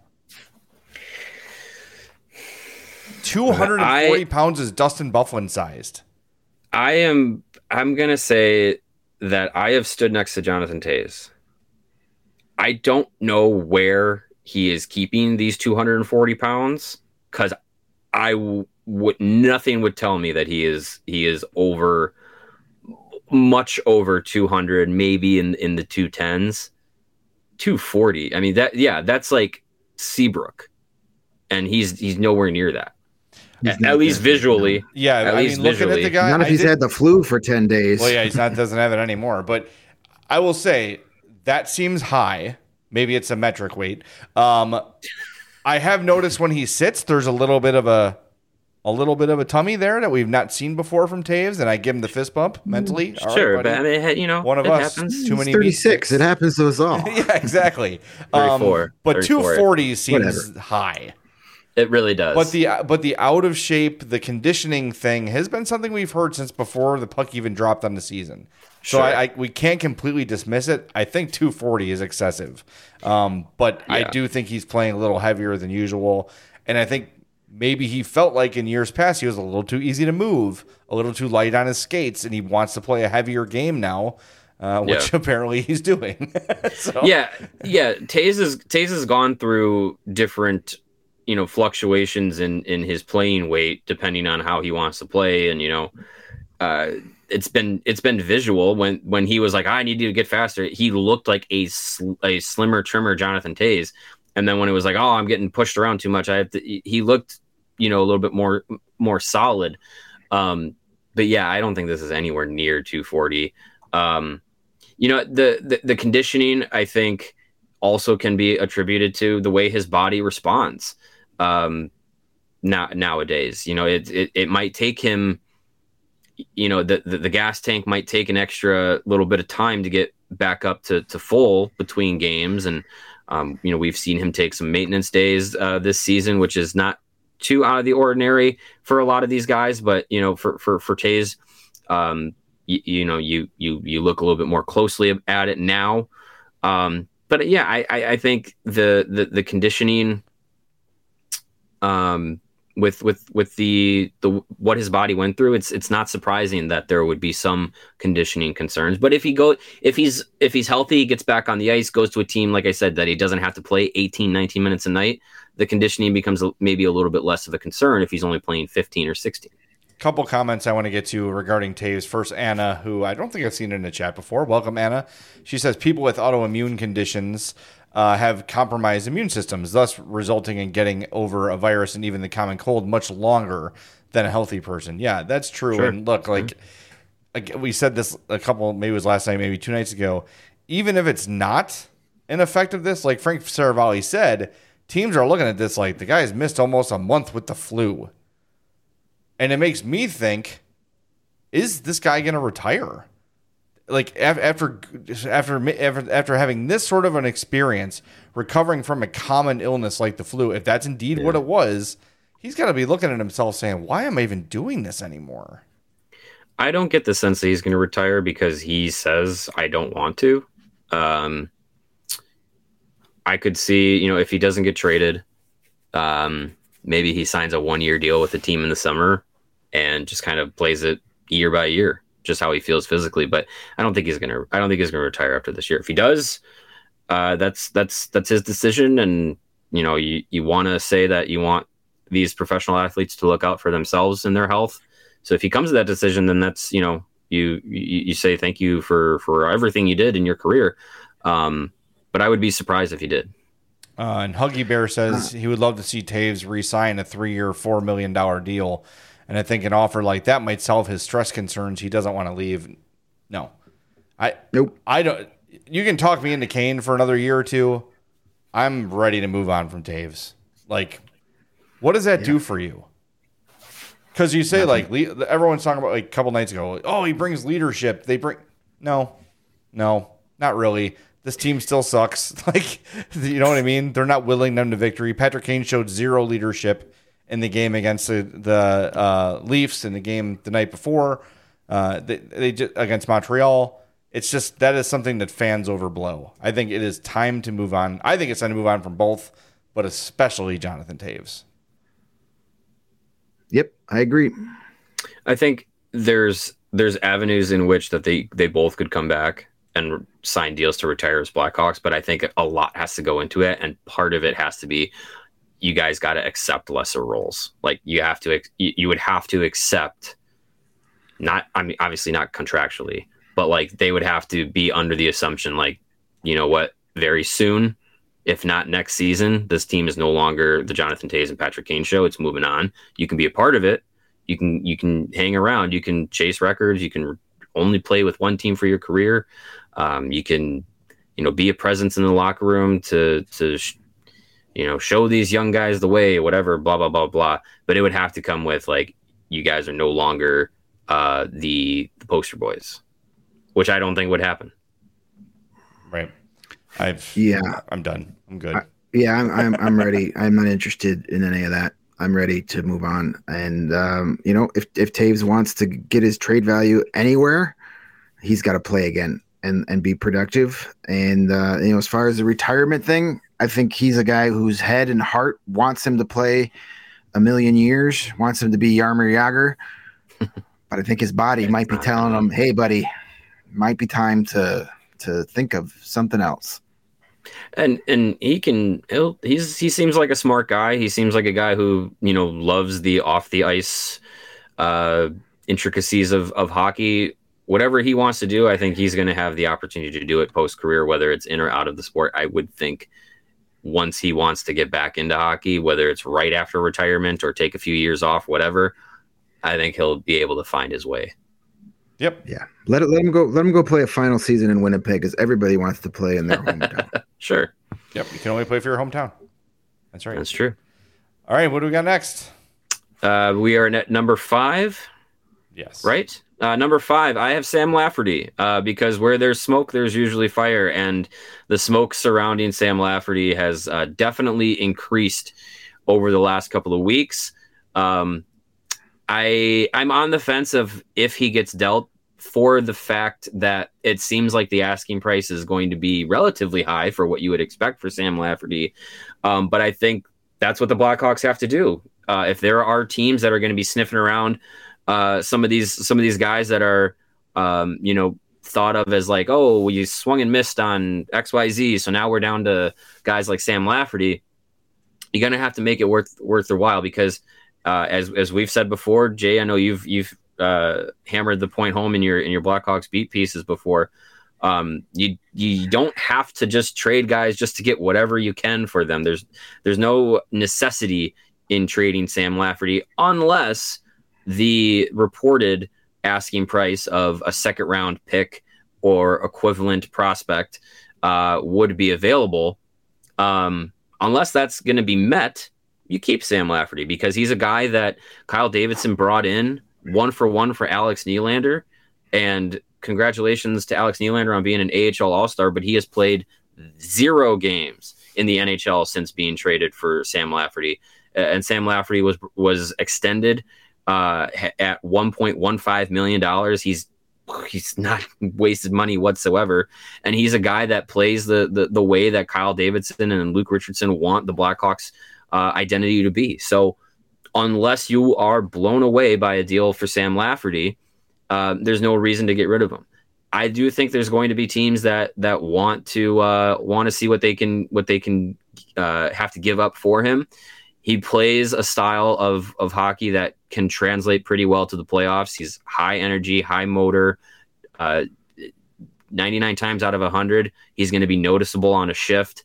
240 pounds is Dustin Byfuglien sized. I'm going to say that I have stood next to Jonathan Toews. I don't know where he is keeping these 240 pounds because nothing would tell me that he is over, much over 200, maybe in the 210s. 240. I mean, that's like Seabrook, and he's nowhere near that. At least visually. Yeah, at least looking visually. at the guy. Not if he's had the flu for 10 days. Well, yeah, doesn't have it anymore. But I will say that seems high. Maybe it's a metric weight. I have noticed when he sits, there's a little bit of a tummy there that we've not seen before from Toews, and I give him the fist bump mentally. Sure, right, but I mean, one of us happens. too many. 36. It happens to us all. Yeah, exactly. 34. But 240 seems Whatever. high. It really does. But the out of shape, the conditioning thing has been something we've heard since before the puck even dropped on the season. So Sure. we can't completely dismiss it. I think 240 is excessive. But I do think he's playing a little heavier than usual. And I think maybe he felt like in years past he was a little too easy to move, a little too light on his skates, and he wants to play a heavier game now, which apparently he's doing. So. Yeah. Toews has gone through different fluctuations in his playing weight depending on how he wants to play, and it's been visual when he was like, I need you to get faster. He looked like a slimmer, trimmer Jonathan Toews, and then when it was like, oh, I'm getting pushed around too much, he looked a little bit more solid. But yeah, I don't think this is anywhere near 240. The conditioning, I think, also can be attributed to the way his body responds. nowadays. It might take him, the gas tank might take an extra little bit of time to get back up to full between games. And, we've seen him take some maintenance days this season, which is not too out of the ordinary for a lot of these guys. But, for Toews, you look a little bit more closely at it now. But yeah, I think the conditioning, with the what his body went through, it's not surprising that there would be some conditioning concerns. But if he's healthy, he gets back on the ice, goes to a team, like I said, that he doesn't have to play 18, 19 minutes a night, the conditioning becomes maybe a little bit less of a concern if he's only playing 15 or 16. Couple comments I want to get to regarding Toews. First, Anna, who I don't think I've seen in the chat before. Welcome, Anna. She says people with autoimmune conditions have compromised immune systems, thus resulting in getting over a virus and even the common cold much longer than a healthy person. Yeah, that's true. Sure. And look, like we said this a couple, maybe it was last night, maybe 2 nights ago. Even if it's not an effect of this, like Frank Saravalli said, teams are looking at this like the guy's missed almost a month with the flu. And it makes me think, is this guy going to retire? Like after having this sort of an experience, recovering from a common illness like the flu, if that's indeed what it was, he's got to be looking at himself saying, why am I even doing this anymore? I don't get the sense that he's going to retire because he says, I don't want to. I could see, if he doesn't get traded, maybe he signs a 1-year deal with the team in the summer and just kind of plays it year by year, just how he feels physically. But I don't think he's gonna retire after this year. If he does, that's his decision. And you want to say that you want these professional athletes to look out for themselves and their health. So if he comes to that decision, then that's you say thank you for everything you did in your career. But I would be surprised if he did. And Huggy Bear says he would love to see Toews re-sign a 3-year, $4 million deal. And I think an offer like that might solve his stress concerns. He doesn't want to leave. No. Nope. I don't. You can talk me into Kane for another year or two. I'm ready to move on from Toews. Like, what does that do for you? Because you say, everyone's talking about, a couple nights ago, oh, he brings leadership. No, not really. This team still sucks. You know what I mean? They're not willing them to victory. Patrick Kane showed zero leadership in the game against the Leafs in the game the night before. They just, against Montreal. It's just that is something that fans overblow. I think it is time to move on. I think it's time to move on from both, but especially Jonathan Toews. Yep, I agree. I think there's avenues in which that they both could come back and sign deals to retire as Blackhawks, but I think a lot has to go into it, and part of it has to be you guys got to accept lesser roles. Like you would have to accept, obviously not contractually, but they would have to be under the assumption, very soon, if not next season, this team is no longer the Jonathan Toews and Patrick Kane show. It's moving on. You can be a part of it. You can hang around. You can chase records. You can only play with one team for your career. You can, be a presence in the locker room to show these young guys the way, whatever, blah, blah, blah, blah. But it would have to come with you guys are no longer the poster boys, which I don't think would happen. Right. I'm done. I'm good. I'm ready. I'm not interested in any of that. I'm ready to move on. And, if Toews wants to get his trade value anywhere, he's got to play again and be productive. And, as far as the retirement thing, I think he's a guy whose head and heart wants him to play a million years, wants him to be Jaromir Jagr. But I think his body might be telling him, hey, buddy, might be time to think of something else. And he seems like a smart guy. He seems like a guy who, loves the off the ice intricacies of hockey. Whatever he wants to do, I think he's going to have the opportunity to do it post career, whether it's in or out of the sport. I would think once he wants to get back into hockey, whether it's right after retirement or take a few years off, whatever, I think he'll be able to find his way. Yep. Yeah. Let him go. Let him go play a final season in Winnipeg, because everybody wants to play in their hometown. Sure. Yep. You can only play for your hometown. That's right. That's true. All right. What do we got next? We are at number 5. Yes. Right? Number 5, I have Sam Lafferty because where there's smoke, there's usually fire. And the smoke surrounding Sam Lafferty has definitely increased over the last couple of weeks. I'm on the fence of if he gets dealt, for the fact that it seems like the asking price is going to be relatively high for what you would expect for Sam Lafferty. But I think that's what the Blackhawks have to do. If there are teams that are going to be sniffing around some of these guys that are, thought of as like, oh, you swung and missed on XYZ, so now we're down to guys like Sam Lafferty. You're going to have to make it worth their while because, as we've said before, Jay, I know you've hammered the point home in your Blackhawks beat pieces before. You don't have to just trade guys just to get whatever you can for them. There's no necessity in trading Sam Lafferty unless the reported asking price of a second round pick or equivalent prospect would be available. Unless that's going to be met, you keep Sam Lafferty because he's a guy that Kyle Davidson brought in 1-for-1 for Alex Nylander. And congratulations to Alex Nylander on being an AHL All-Star, but he has played 0 games in the NHL since being traded for Sam Lafferty. And Sam Lafferty was extended at $1.15 million. He's not wasted money whatsoever. And he's a guy that plays the way that Kyle Davidson and Luke Richardson want the Blackhawks identity to be. So unless you are blown away by a deal for Sam Lafferty, there's no reason to get rid of him. I do think there's going to be teams that want to see what they can have to give up for him. He plays a style of hockey that can translate pretty well to the playoffs. He's high energy, high motor. 99 times out of 100, he's going to be noticeable on a shift.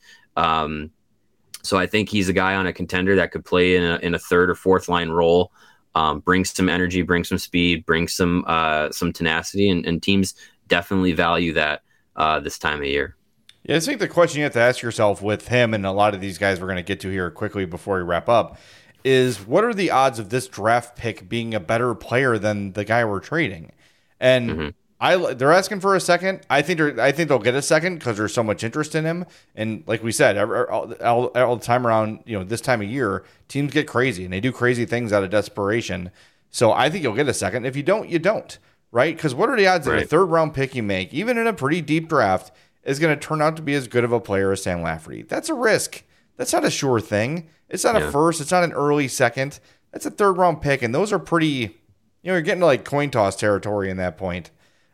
So I think he's a guy on a contender that could play in a third or fourth line role. Brings some energy, brings some speed, brings some tenacity, and teams definitely value that this time of year. Yeah, I think the question you have to ask yourself with him and a lot of these guys we're going to get to here quickly before we wrap up is what are the odds of this draft pick being a better player than the guy we're trading? And they're asking for a second. I think they'll get a second because there's so much interest in him. And like we said, all the time around, this time of year, teams get crazy and they do crazy things out of desperation. So I think you'll get a second. If you don't, you don't, right? Because what are the odds that a third round pick you make, even in a pretty deep draft, is going to turn out to be as good of a player as Sam Lafferty? That's a risk. That's not a sure thing. It's not a first. It's not an early second. That's a third round pick. And those are pretty, you're getting to like coin toss territory in that point.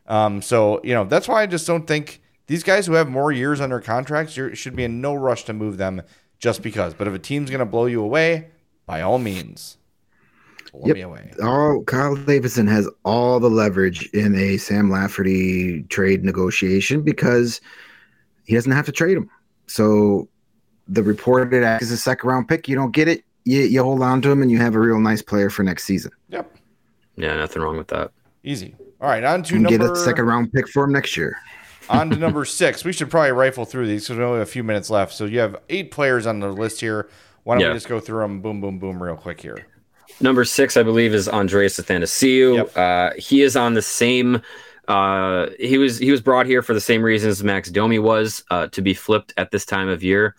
So that's why I just don't think these guys who have more years under contracts should be in no rush to move them just because. But if a team's going to blow you away, by all means, blow me away. Kyle Davidson has all the leverage in a Sam Lafferty trade negotiation because he doesn't have to trade him. So the reported as a second round pick, you don't get it. You hold on to him and you have a real nice player for next season. Yep. Yeah, nothing wrong with that. Easy. All right, on to get a second round pick for him next year. On to number 6. We should probably rifle through these because we only have a few minutes left. So you have 8 players on the list here. Why don't we just go through them boom, boom, boom real quick here? Number 6, I believe, is Andreas Athanasiou. Yep. He is on the same he was brought here for the same reasons Max Domi was, to be flipped at this time of year.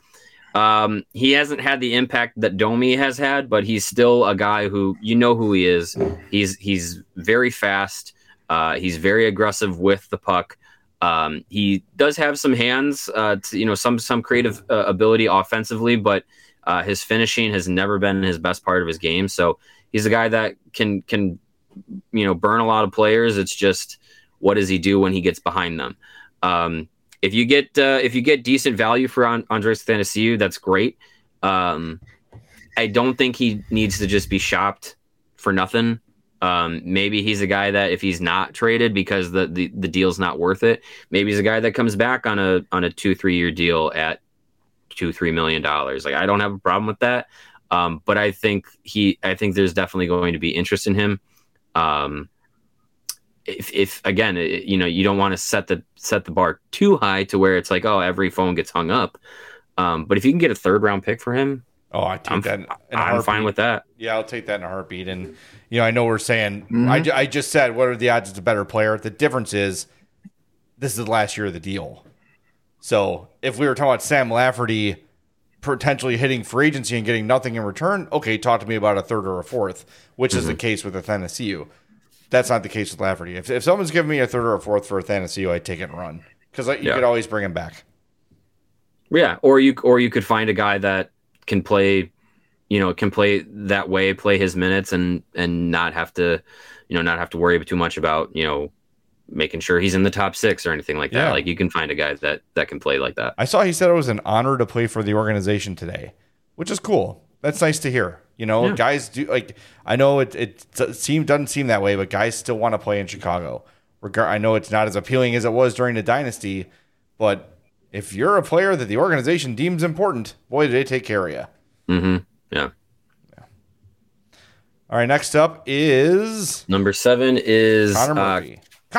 He hasn't had the impact that Domi has had, but he's still a guy who who he is. He's very fast. He's very aggressive with the puck. He does have some hands, some creative ability offensively, but his finishing has never been his best part of his game. So he's a guy that can burn a lot of players. It's just what does he do when he gets behind them? If you get decent value for Andreas Athanasiou, that's great. I don't think he needs to just be shopped for nothing. Maybe he's a guy that if he's not traded because the deal's not worth it, maybe he's a guy that comes back on a 2-3 year deal at $2-3 million. Like, I don't have a problem with that. But I think there's definitely going to be interest in him. If again, you don't want to set the bar too high to where it's like, oh, every phone gets hung up. But if you can get a third round pick for him, Oh, I take that in a I'm heartbeat. fine with that. Yeah, I'll take that in a heartbeat. And, I know we're saying, Mm-hmm. I just said, what are the odds it's a better player? The difference is this is the last year of the deal. So if we were talking about Sam Lafferty potentially hitting free agency and getting nothing in return, okay, talk to me about a third or a fourth, which is the case with Athanasiou. That's not the case with Lafferty. If someone's giving me a third or a fourth for Athanasiou, I take it and run because you could always bring him back. Yeah, or you could find a guy that can play, can play that way, play his minutes, and not have to, not have to worry too much about making sure he's in the top 6 or anything like that. Yeah. Like you can find a guy that can play like that. I saw he said it was an honor to play for the organization today, which is cool. That's nice to hear. Guys do I know it doesn't seem that way, but guys still want to play in Chicago. I know it's not as appealing as it was during the dynasty, but if you're a player that the organization deems important, boy, do they take care of you. Mm-hmm. Yeah. All right, next up is number 7 is Connor Murphy.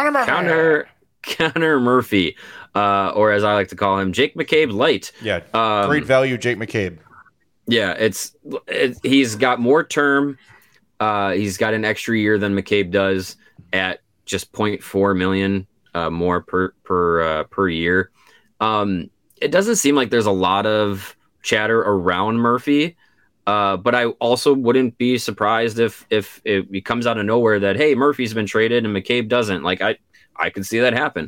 Connor Murphy, or as I like to call him, Jake McCabe Light. Yeah, great value, Jake McCabe. Yeah, he's got more term. He's got an extra year than McCabe does at just 0.4 million more per year. It doesn't seem like there's a lot of chatter around Murphy, but I also wouldn't be surprised if it comes out of nowhere that, hey, Murphy's been traded and McCabe doesn't. Like I could see that happen.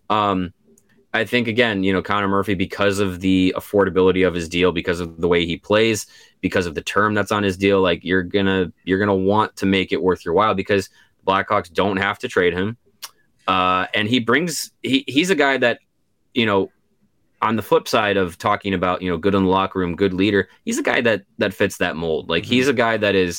I think, again, Connor Murphy, because of the affordability of his deal, because of the way he plays, because of the term that's on his deal, like you're gonna want to make it worth your while because the Blackhawks don't have to trade him. And he's a guy that, on the flip side of talking about, good in the locker room, good leader, he's a guy that fits that mold. Like he's a guy that is,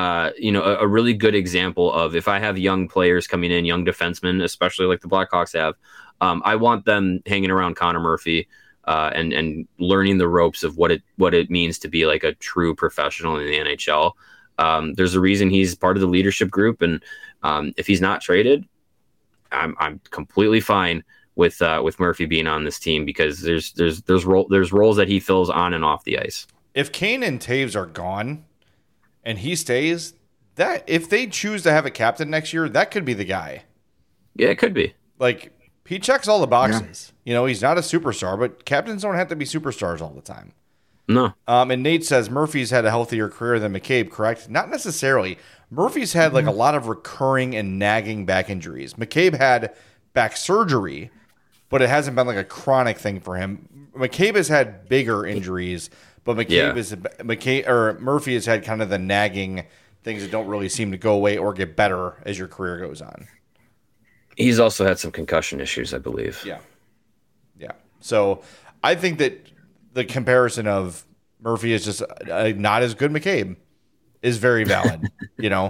a really good example of, if I have young players coming in, young defensemen, especially like the Blackhawks have, I want them hanging around Connor Murphy and learning the ropes of what it means to be like a true professional in the NHL. There's a reason he's part of the leadership group, and if he's not traded, I'm completely fine with Murphy being on this team because there's roles that he fills on and off the ice. If Kane and Taves are gone and he stays, that if they choose to have a captain next year, that could be the guy. Yeah, it could be. Like, he checks all the boxes. Yeah. He's not a superstar, but captains don't have to be superstars all the time. No. And Nate says Murphy's had a healthier career than McCabe, correct? Not necessarily. Murphy's had like a lot of recurring and nagging back injuries. McCabe had back surgery, but it hasn't been like a chronic thing for him. McCabe has had bigger injuries, but Murphy has had kind of the nagging things that don't really seem to go away or get better as your career goes on. He's also had some concussion issues, I believe. Yeah. So I think that the comparison of Murphy is just not as good McCabe is very valid, But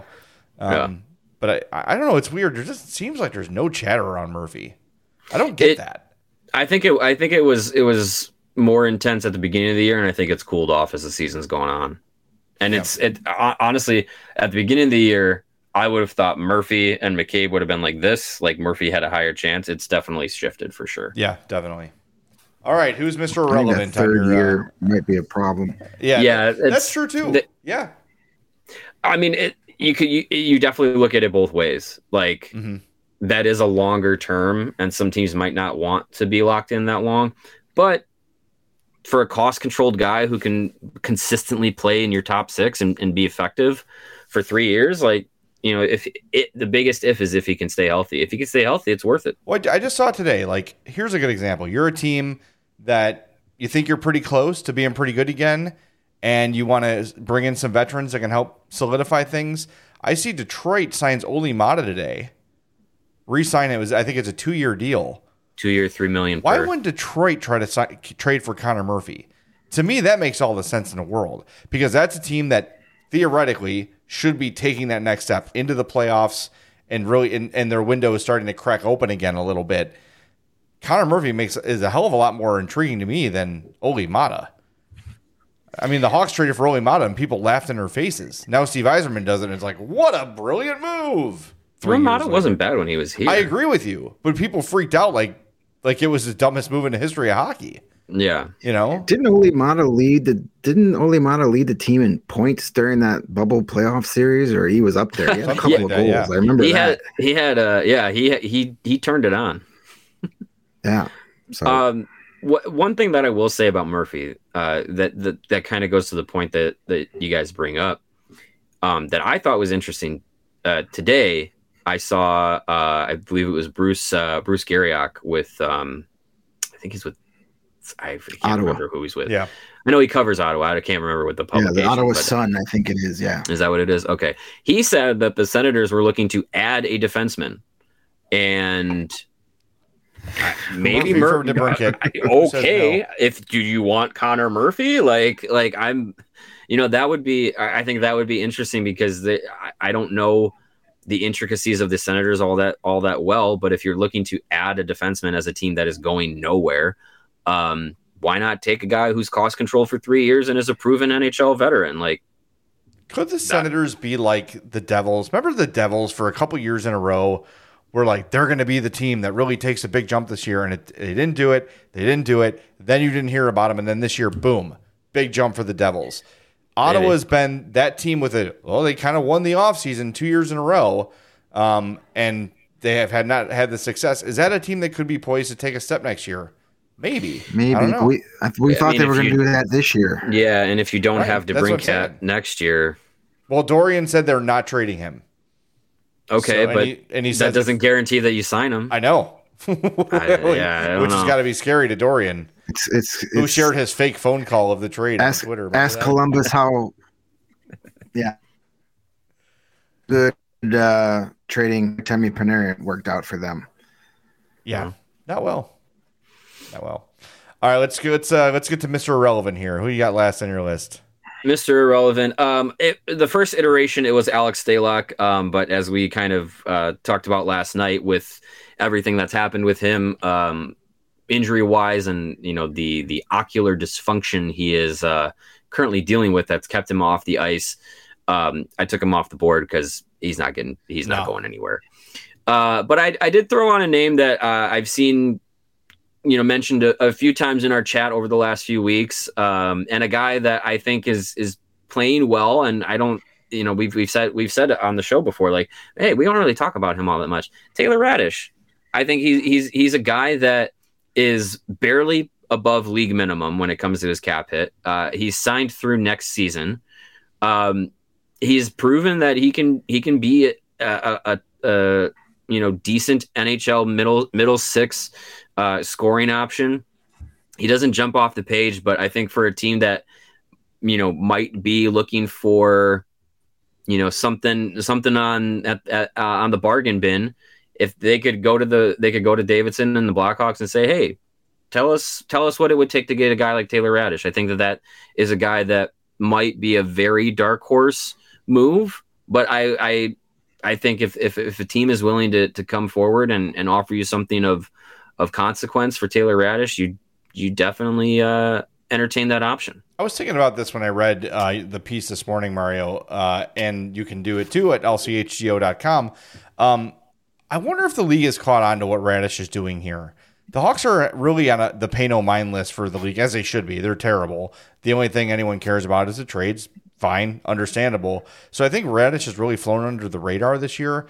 I don't know. It's weird. There just seems like there's no chatter around Murphy. I don't get that. I think it was more intense at the beginning of the year, and I think it's cooled off as the season's going on. And honestly, at the beginning of the year, I would have thought Murphy and McCabe would have been like this. Like Murphy had a higher chance. It's definitely shifted for sure. Yeah, definitely. All right, who's Mr. I Irrelevant? think that third year might be a problem. Yeah, that's true too. Yeah, I mean, you definitely look at it both ways. Like that is a longer term, and some teams might not want to be locked in that long. But for a cost-controlled guy who can consistently play in your top 6 and be effective for 3 years, like. The biggest is if he can stay healthy. If he can stay healthy, it's worth it. Well, I just saw it today. Like, here's a good example. You're a team that you think you're pretty close to being pretty good again, and you want to bring in some veterans that can help solidify things. I see Detroit signs Oli Mata today. Re-sign it. I think it's a 2-year deal. 2 year, $3 million. Why wouldn't Detroit try to trade for Connor Murphy? To me, that makes all the sense in the world because that's a team that theoretically should be taking that next step into the playoffs and really, and their window is starting to crack open again a little bit. Connor Murphy is a hell of a lot more intriguing to me than Oli Mata. I mean, the Hawks traded for Oli Mata and people laughed in their faces. Now Steve Yzerman does it and it's like, what a brilliant move. Mata wasn't bad when he was here. I agree with you, but people freaked out like it was the dumbest move in the history of hockey. Yeah. Didn't Ole Mata lead the team in points during that bubble playoff series, or he was up there? He had a couple of goals. Yeah. I remember that. He turned it on. Yeah. So one thing that I will say about Murphy, that kind of goes to the point that you guys bring up, that I thought was interesting. Today I saw, I believe it was Bruce Garriock with, I think he's with, I can't remember who he's with. Yeah. I know he covers Ottawa. I can't remember what the publication. Yeah, the Ottawa Sun, I think it is. Yeah. Is that what it is? Okay. He said that the Senators were looking to add a defenseman, and maybe Murphy. Okay. Do you want Connor Murphy? Like I'm, that would be, I think that would be interesting because I don't know the intricacies of the Senators all that well, but if you're looking to add a defenseman as a team that is going nowhere, why not take a guy who's cost control for 3 years and is a proven NHL veteran? Like, could the Senators be like the Devils? Remember the Devils for a couple years in a row were like, they're going to be the team that really takes a big jump this year, and they didn't do it. They didn't do it. Then you didn't hear about them, and then this year, boom, big jump for the Devils. Ottawa's been that team with it. Well, they kind of won the offseason 2 years in a row, and they have not had the success. Is that a team that could be poised to take a step next year? Maybe. I don't know. We thought they were going to do that this year. Yeah, and if you don't have DeBrincat next year. Well, Dorian said they're not trading him. Okay, so, but he said that doesn't guarantee that you sign him. I know. I don't Which has got to be scary to Dorian. Who shared his fake phone call of the trade on Twitter. Ask Columbus how good trading Temi Panarin worked out for them. Yeah, not well. All right, let's get to Mr. Irrelevant here. Who you got last on your list? Mr. Irrelevant. The first iteration, it was Alex Stalock, but as we kind of talked about last night with everything that's happened with him, injury-wise, and the ocular dysfunction he is currently dealing with that's kept him off the ice, I took him off the board because he's not going anywhere. But I did throw on a name that I've seen mentioned a few times in our chat over the last few weeks, and a guy that I think is playing well. And I don't, we've said it on the show before, like, hey, we don't really talk about him all that much. Taylor Radish. I think he's a guy that is barely above league minimum when it comes to his cap hit. He's signed through next season. He's proven that he can be a decent NHL middle six scoring option. He doesn't jump off the page, but I think for a team that might be looking for something on the bargain bin, if they could go to Davidson and the Blackhawks and say, hey, tell us what it would take to get a guy like Taylor Radish. I think that is a guy that might be a very dark horse move, but I think if a team is willing to come forward and offer you something of consequence for Taylor Radish, you definitely entertain that option. I was thinking about this when I read the piece this morning, Mario, and you can do it too at lchgo.com. I wonder if the league has caught on to what Radish is doing here. The Hawks are really on the pay no mind list for the league, as they should be. They're terrible. The only thing anyone cares about is the trades. Fine, understandable. So I think Radish has really flown under the radar this year.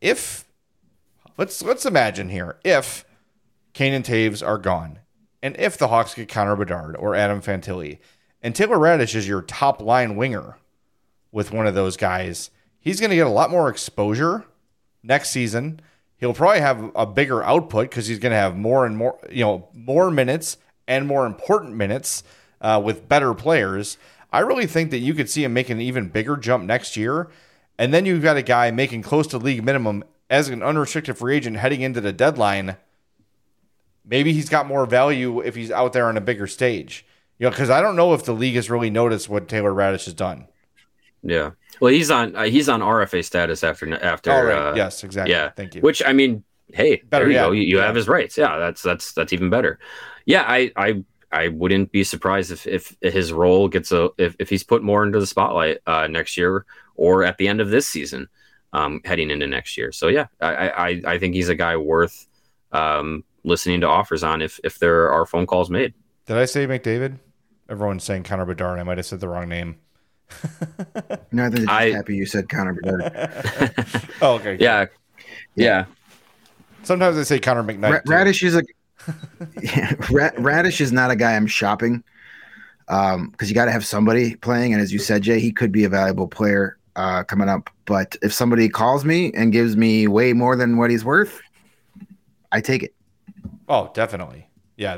Let's imagine here, if Kane and Taves are gone, and if the Hawks get Connor Bedard or Adam Fantilli, and Taylor Radish is your top line winger with one of those guys, he's going to get a lot more exposure next season. He'll probably have a bigger output because he's going to have more and more, more minutes and more important minutes with better players. I really think that you could see him make an even bigger jump next year. And then you've got a guy making close to league minimum as an unrestricted free agent heading into the deadline. Maybe he's got more value if he's out there on a bigger stage. Because I don't know if the league has really noticed what Taylor Radish has done. Yeah. Well, he's on RFA status after. Oh, right. Yes, exactly. Yeah. Thank you. Which, I mean, hey, better, there you go. You have his rights. Yeah, that's even better. Yeah, I wouldn't be surprised if his role gets if he's put more into the spotlight next year or at the end of this season, heading into next year. So yeah, I think he's a guy worth listening to offers on if there are phone calls made. Did I say McDavid? Everyone's saying Connor Bedard. I might have said the wrong name. No, I think they're just happy you said Connor Bedard. Oh, okay. Yeah. Sometimes I say Connor McKnight. Radish is Radish is not a guy I'm shopping because you got to have somebody playing. And as you said, Jay, he could be a valuable player coming up. But if somebody calls me and gives me way more than what he's worth, I take it. Oh, definitely. Yeah,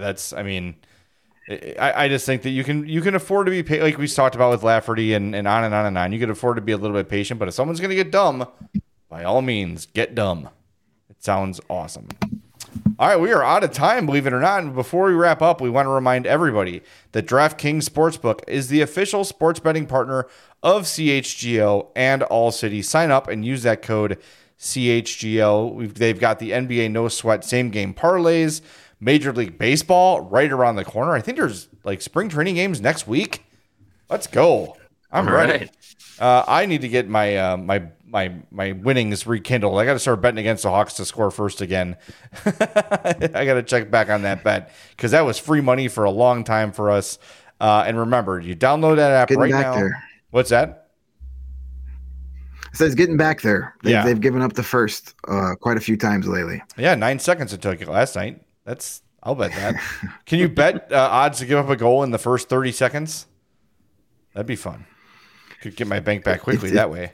I just think that you can afford to be paid, like we talked about with Lafferty and on and on and on. You can afford to be a little bit patient, but if someone's going to get dumb, by all means, get dumb. It sounds awesome. All right, we are out of time, believe it or not. And before we wrap up, we want to remind everybody that DraftKings Sportsbook is the official sports betting partner of CHGO and All City. Sign up and use that code CHGO. They've got the NBA No Sweat same game parlays. Major League Baseball right around the corner. I think there's like spring training games next week. Let's go. I'm ready. Right. I need to get my my winnings rekindled. I got to start betting against the Hawks to score first again. I got to check back on that bet because that was free money for a long time for us. And remember, you download that app right now. There. What's that? It says getting back there. They've given up the first quite a few times lately. Yeah, 9 seconds it took last night. I'll bet that. Can you bet odds to give up a goal in the first 30 seconds? That'd be fun. Could get my bank back quickly that way.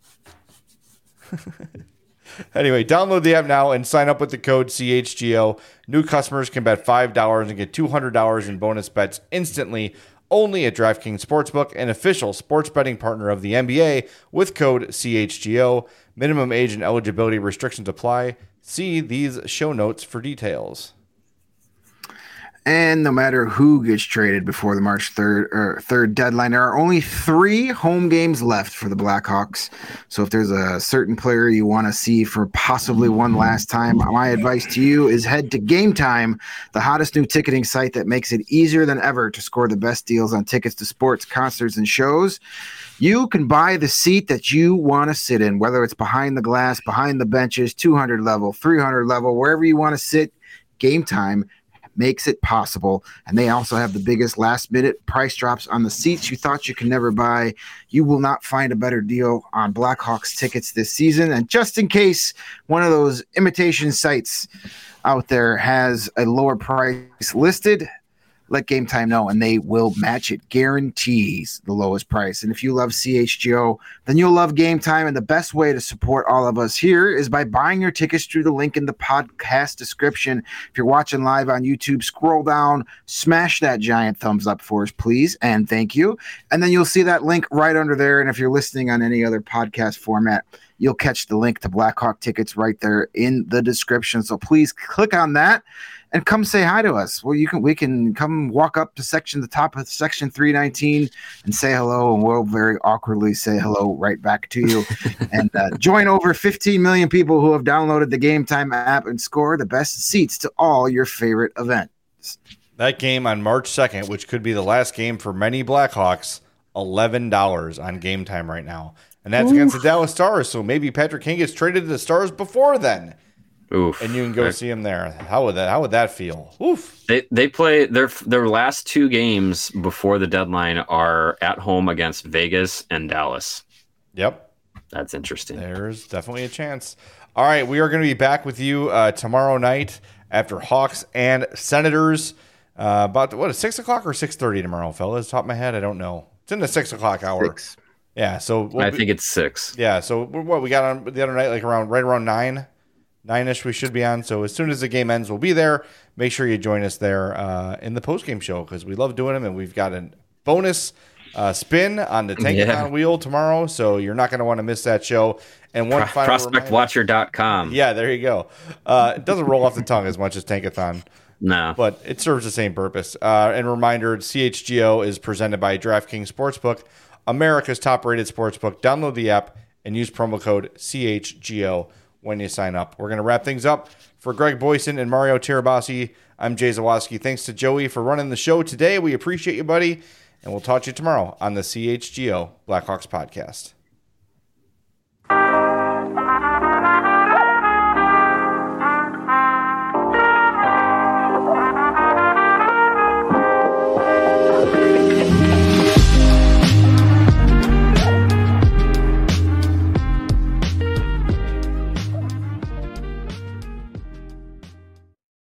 Anyway, download the app now and sign up with the code CHGO. New customers can bet $5 and get $200 in bonus bets instantly only at DraftKings Sportsbook, an official sports betting partner of the NBA with code CHGO. Minimum age and eligibility restrictions apply. See these show notes for details. And no matter who gets traded before the March 3rd deadline, there are only 3 home games left for the Blackhawks. So if there's a certain player you want to see for possibly one last time, my advice to you is head to Game Time, the hottest new ticketing site that makes it easier than ever to score the best deals on tickets to sports, concerts, and shows. You can buy the seat that you want to sit in, whether it's behind the glass, behind the benches, 200 level, 300 level, wherever you want to sit. Game Time makes it possible. And they also have the biggest last minute price drops on the seats you thought you could never buy. You will not find a better deal on Blackhawks tickets this season. And just in case one of those imitation sites out there has a lower price listed, let Game Time know, and they will match it. Guarantees the lowest price. And if you love CHGO, then you'll love Game Time. And the best way to support all of us here is by buying your tickets through the link in the podcast description. If you're watching live on YouTube, scroll down, smash that giant thumbs up for us, please, and thank you. And then you'll see that link right under there. And if you're listening on any other podcast format, you'll catch the link to Blackhawk tickets right there in the description. So please click on that and come say hi to us. Well, we can come walk up to the top of section 319 and say hello, and we'll very awkwardly say hello right back to you. And join over 15 million people who have downloaded the Game Time app and score the best seats to all your favorite events. That game on March 2nd, which could be the last game for many Blackhawks, $11 on Game Time right now. And that's against the Dallas Stars, so maybe Patrick Kane gets traded to the Stars before then. Oof. And you can go see him there. How would that feel? Oof. They play their last 2 games before the deadline are at home against Vegas and Dallas. Yep. That's interesting. There's definitely a chance. All right, we are going to be back with you tomorrow night after Hawks and Senators. About 6 o'clock or 6:30 tomorrow, fellas? Top of my head, I don't know. It's in the 6 o'clock hour. 6. Yeah, so I think it's 6. Yeah, so what we got on the other night, like right around 9-ish we should be on. So as soon as the game ends, we'll be there. Make sure you join us there in the post-game show because we love doing them, and we've got a bonus spin on the Tankathon wheel tomorrow, so you're not going to want to miss that show. And one final ProspectWatcher.com. Yeah, there you go. It doesn't roll off the tongue as much as Tankathon. No. But it serves the same purpose. And reminder, CHGO is presented by DraftKings Sportsbook, America's top-rated sportsbook. Download the app and use promo code CHGO when you sign up. We're going to wrap things up. For Greg Boyson and Mario Tirabassi, I'm Jay Zawaski. Thanks to Joey for running the show today. We appreciate you, buddy. And we'll talk to you tomorrow on the CHGO Blackhawks podcast.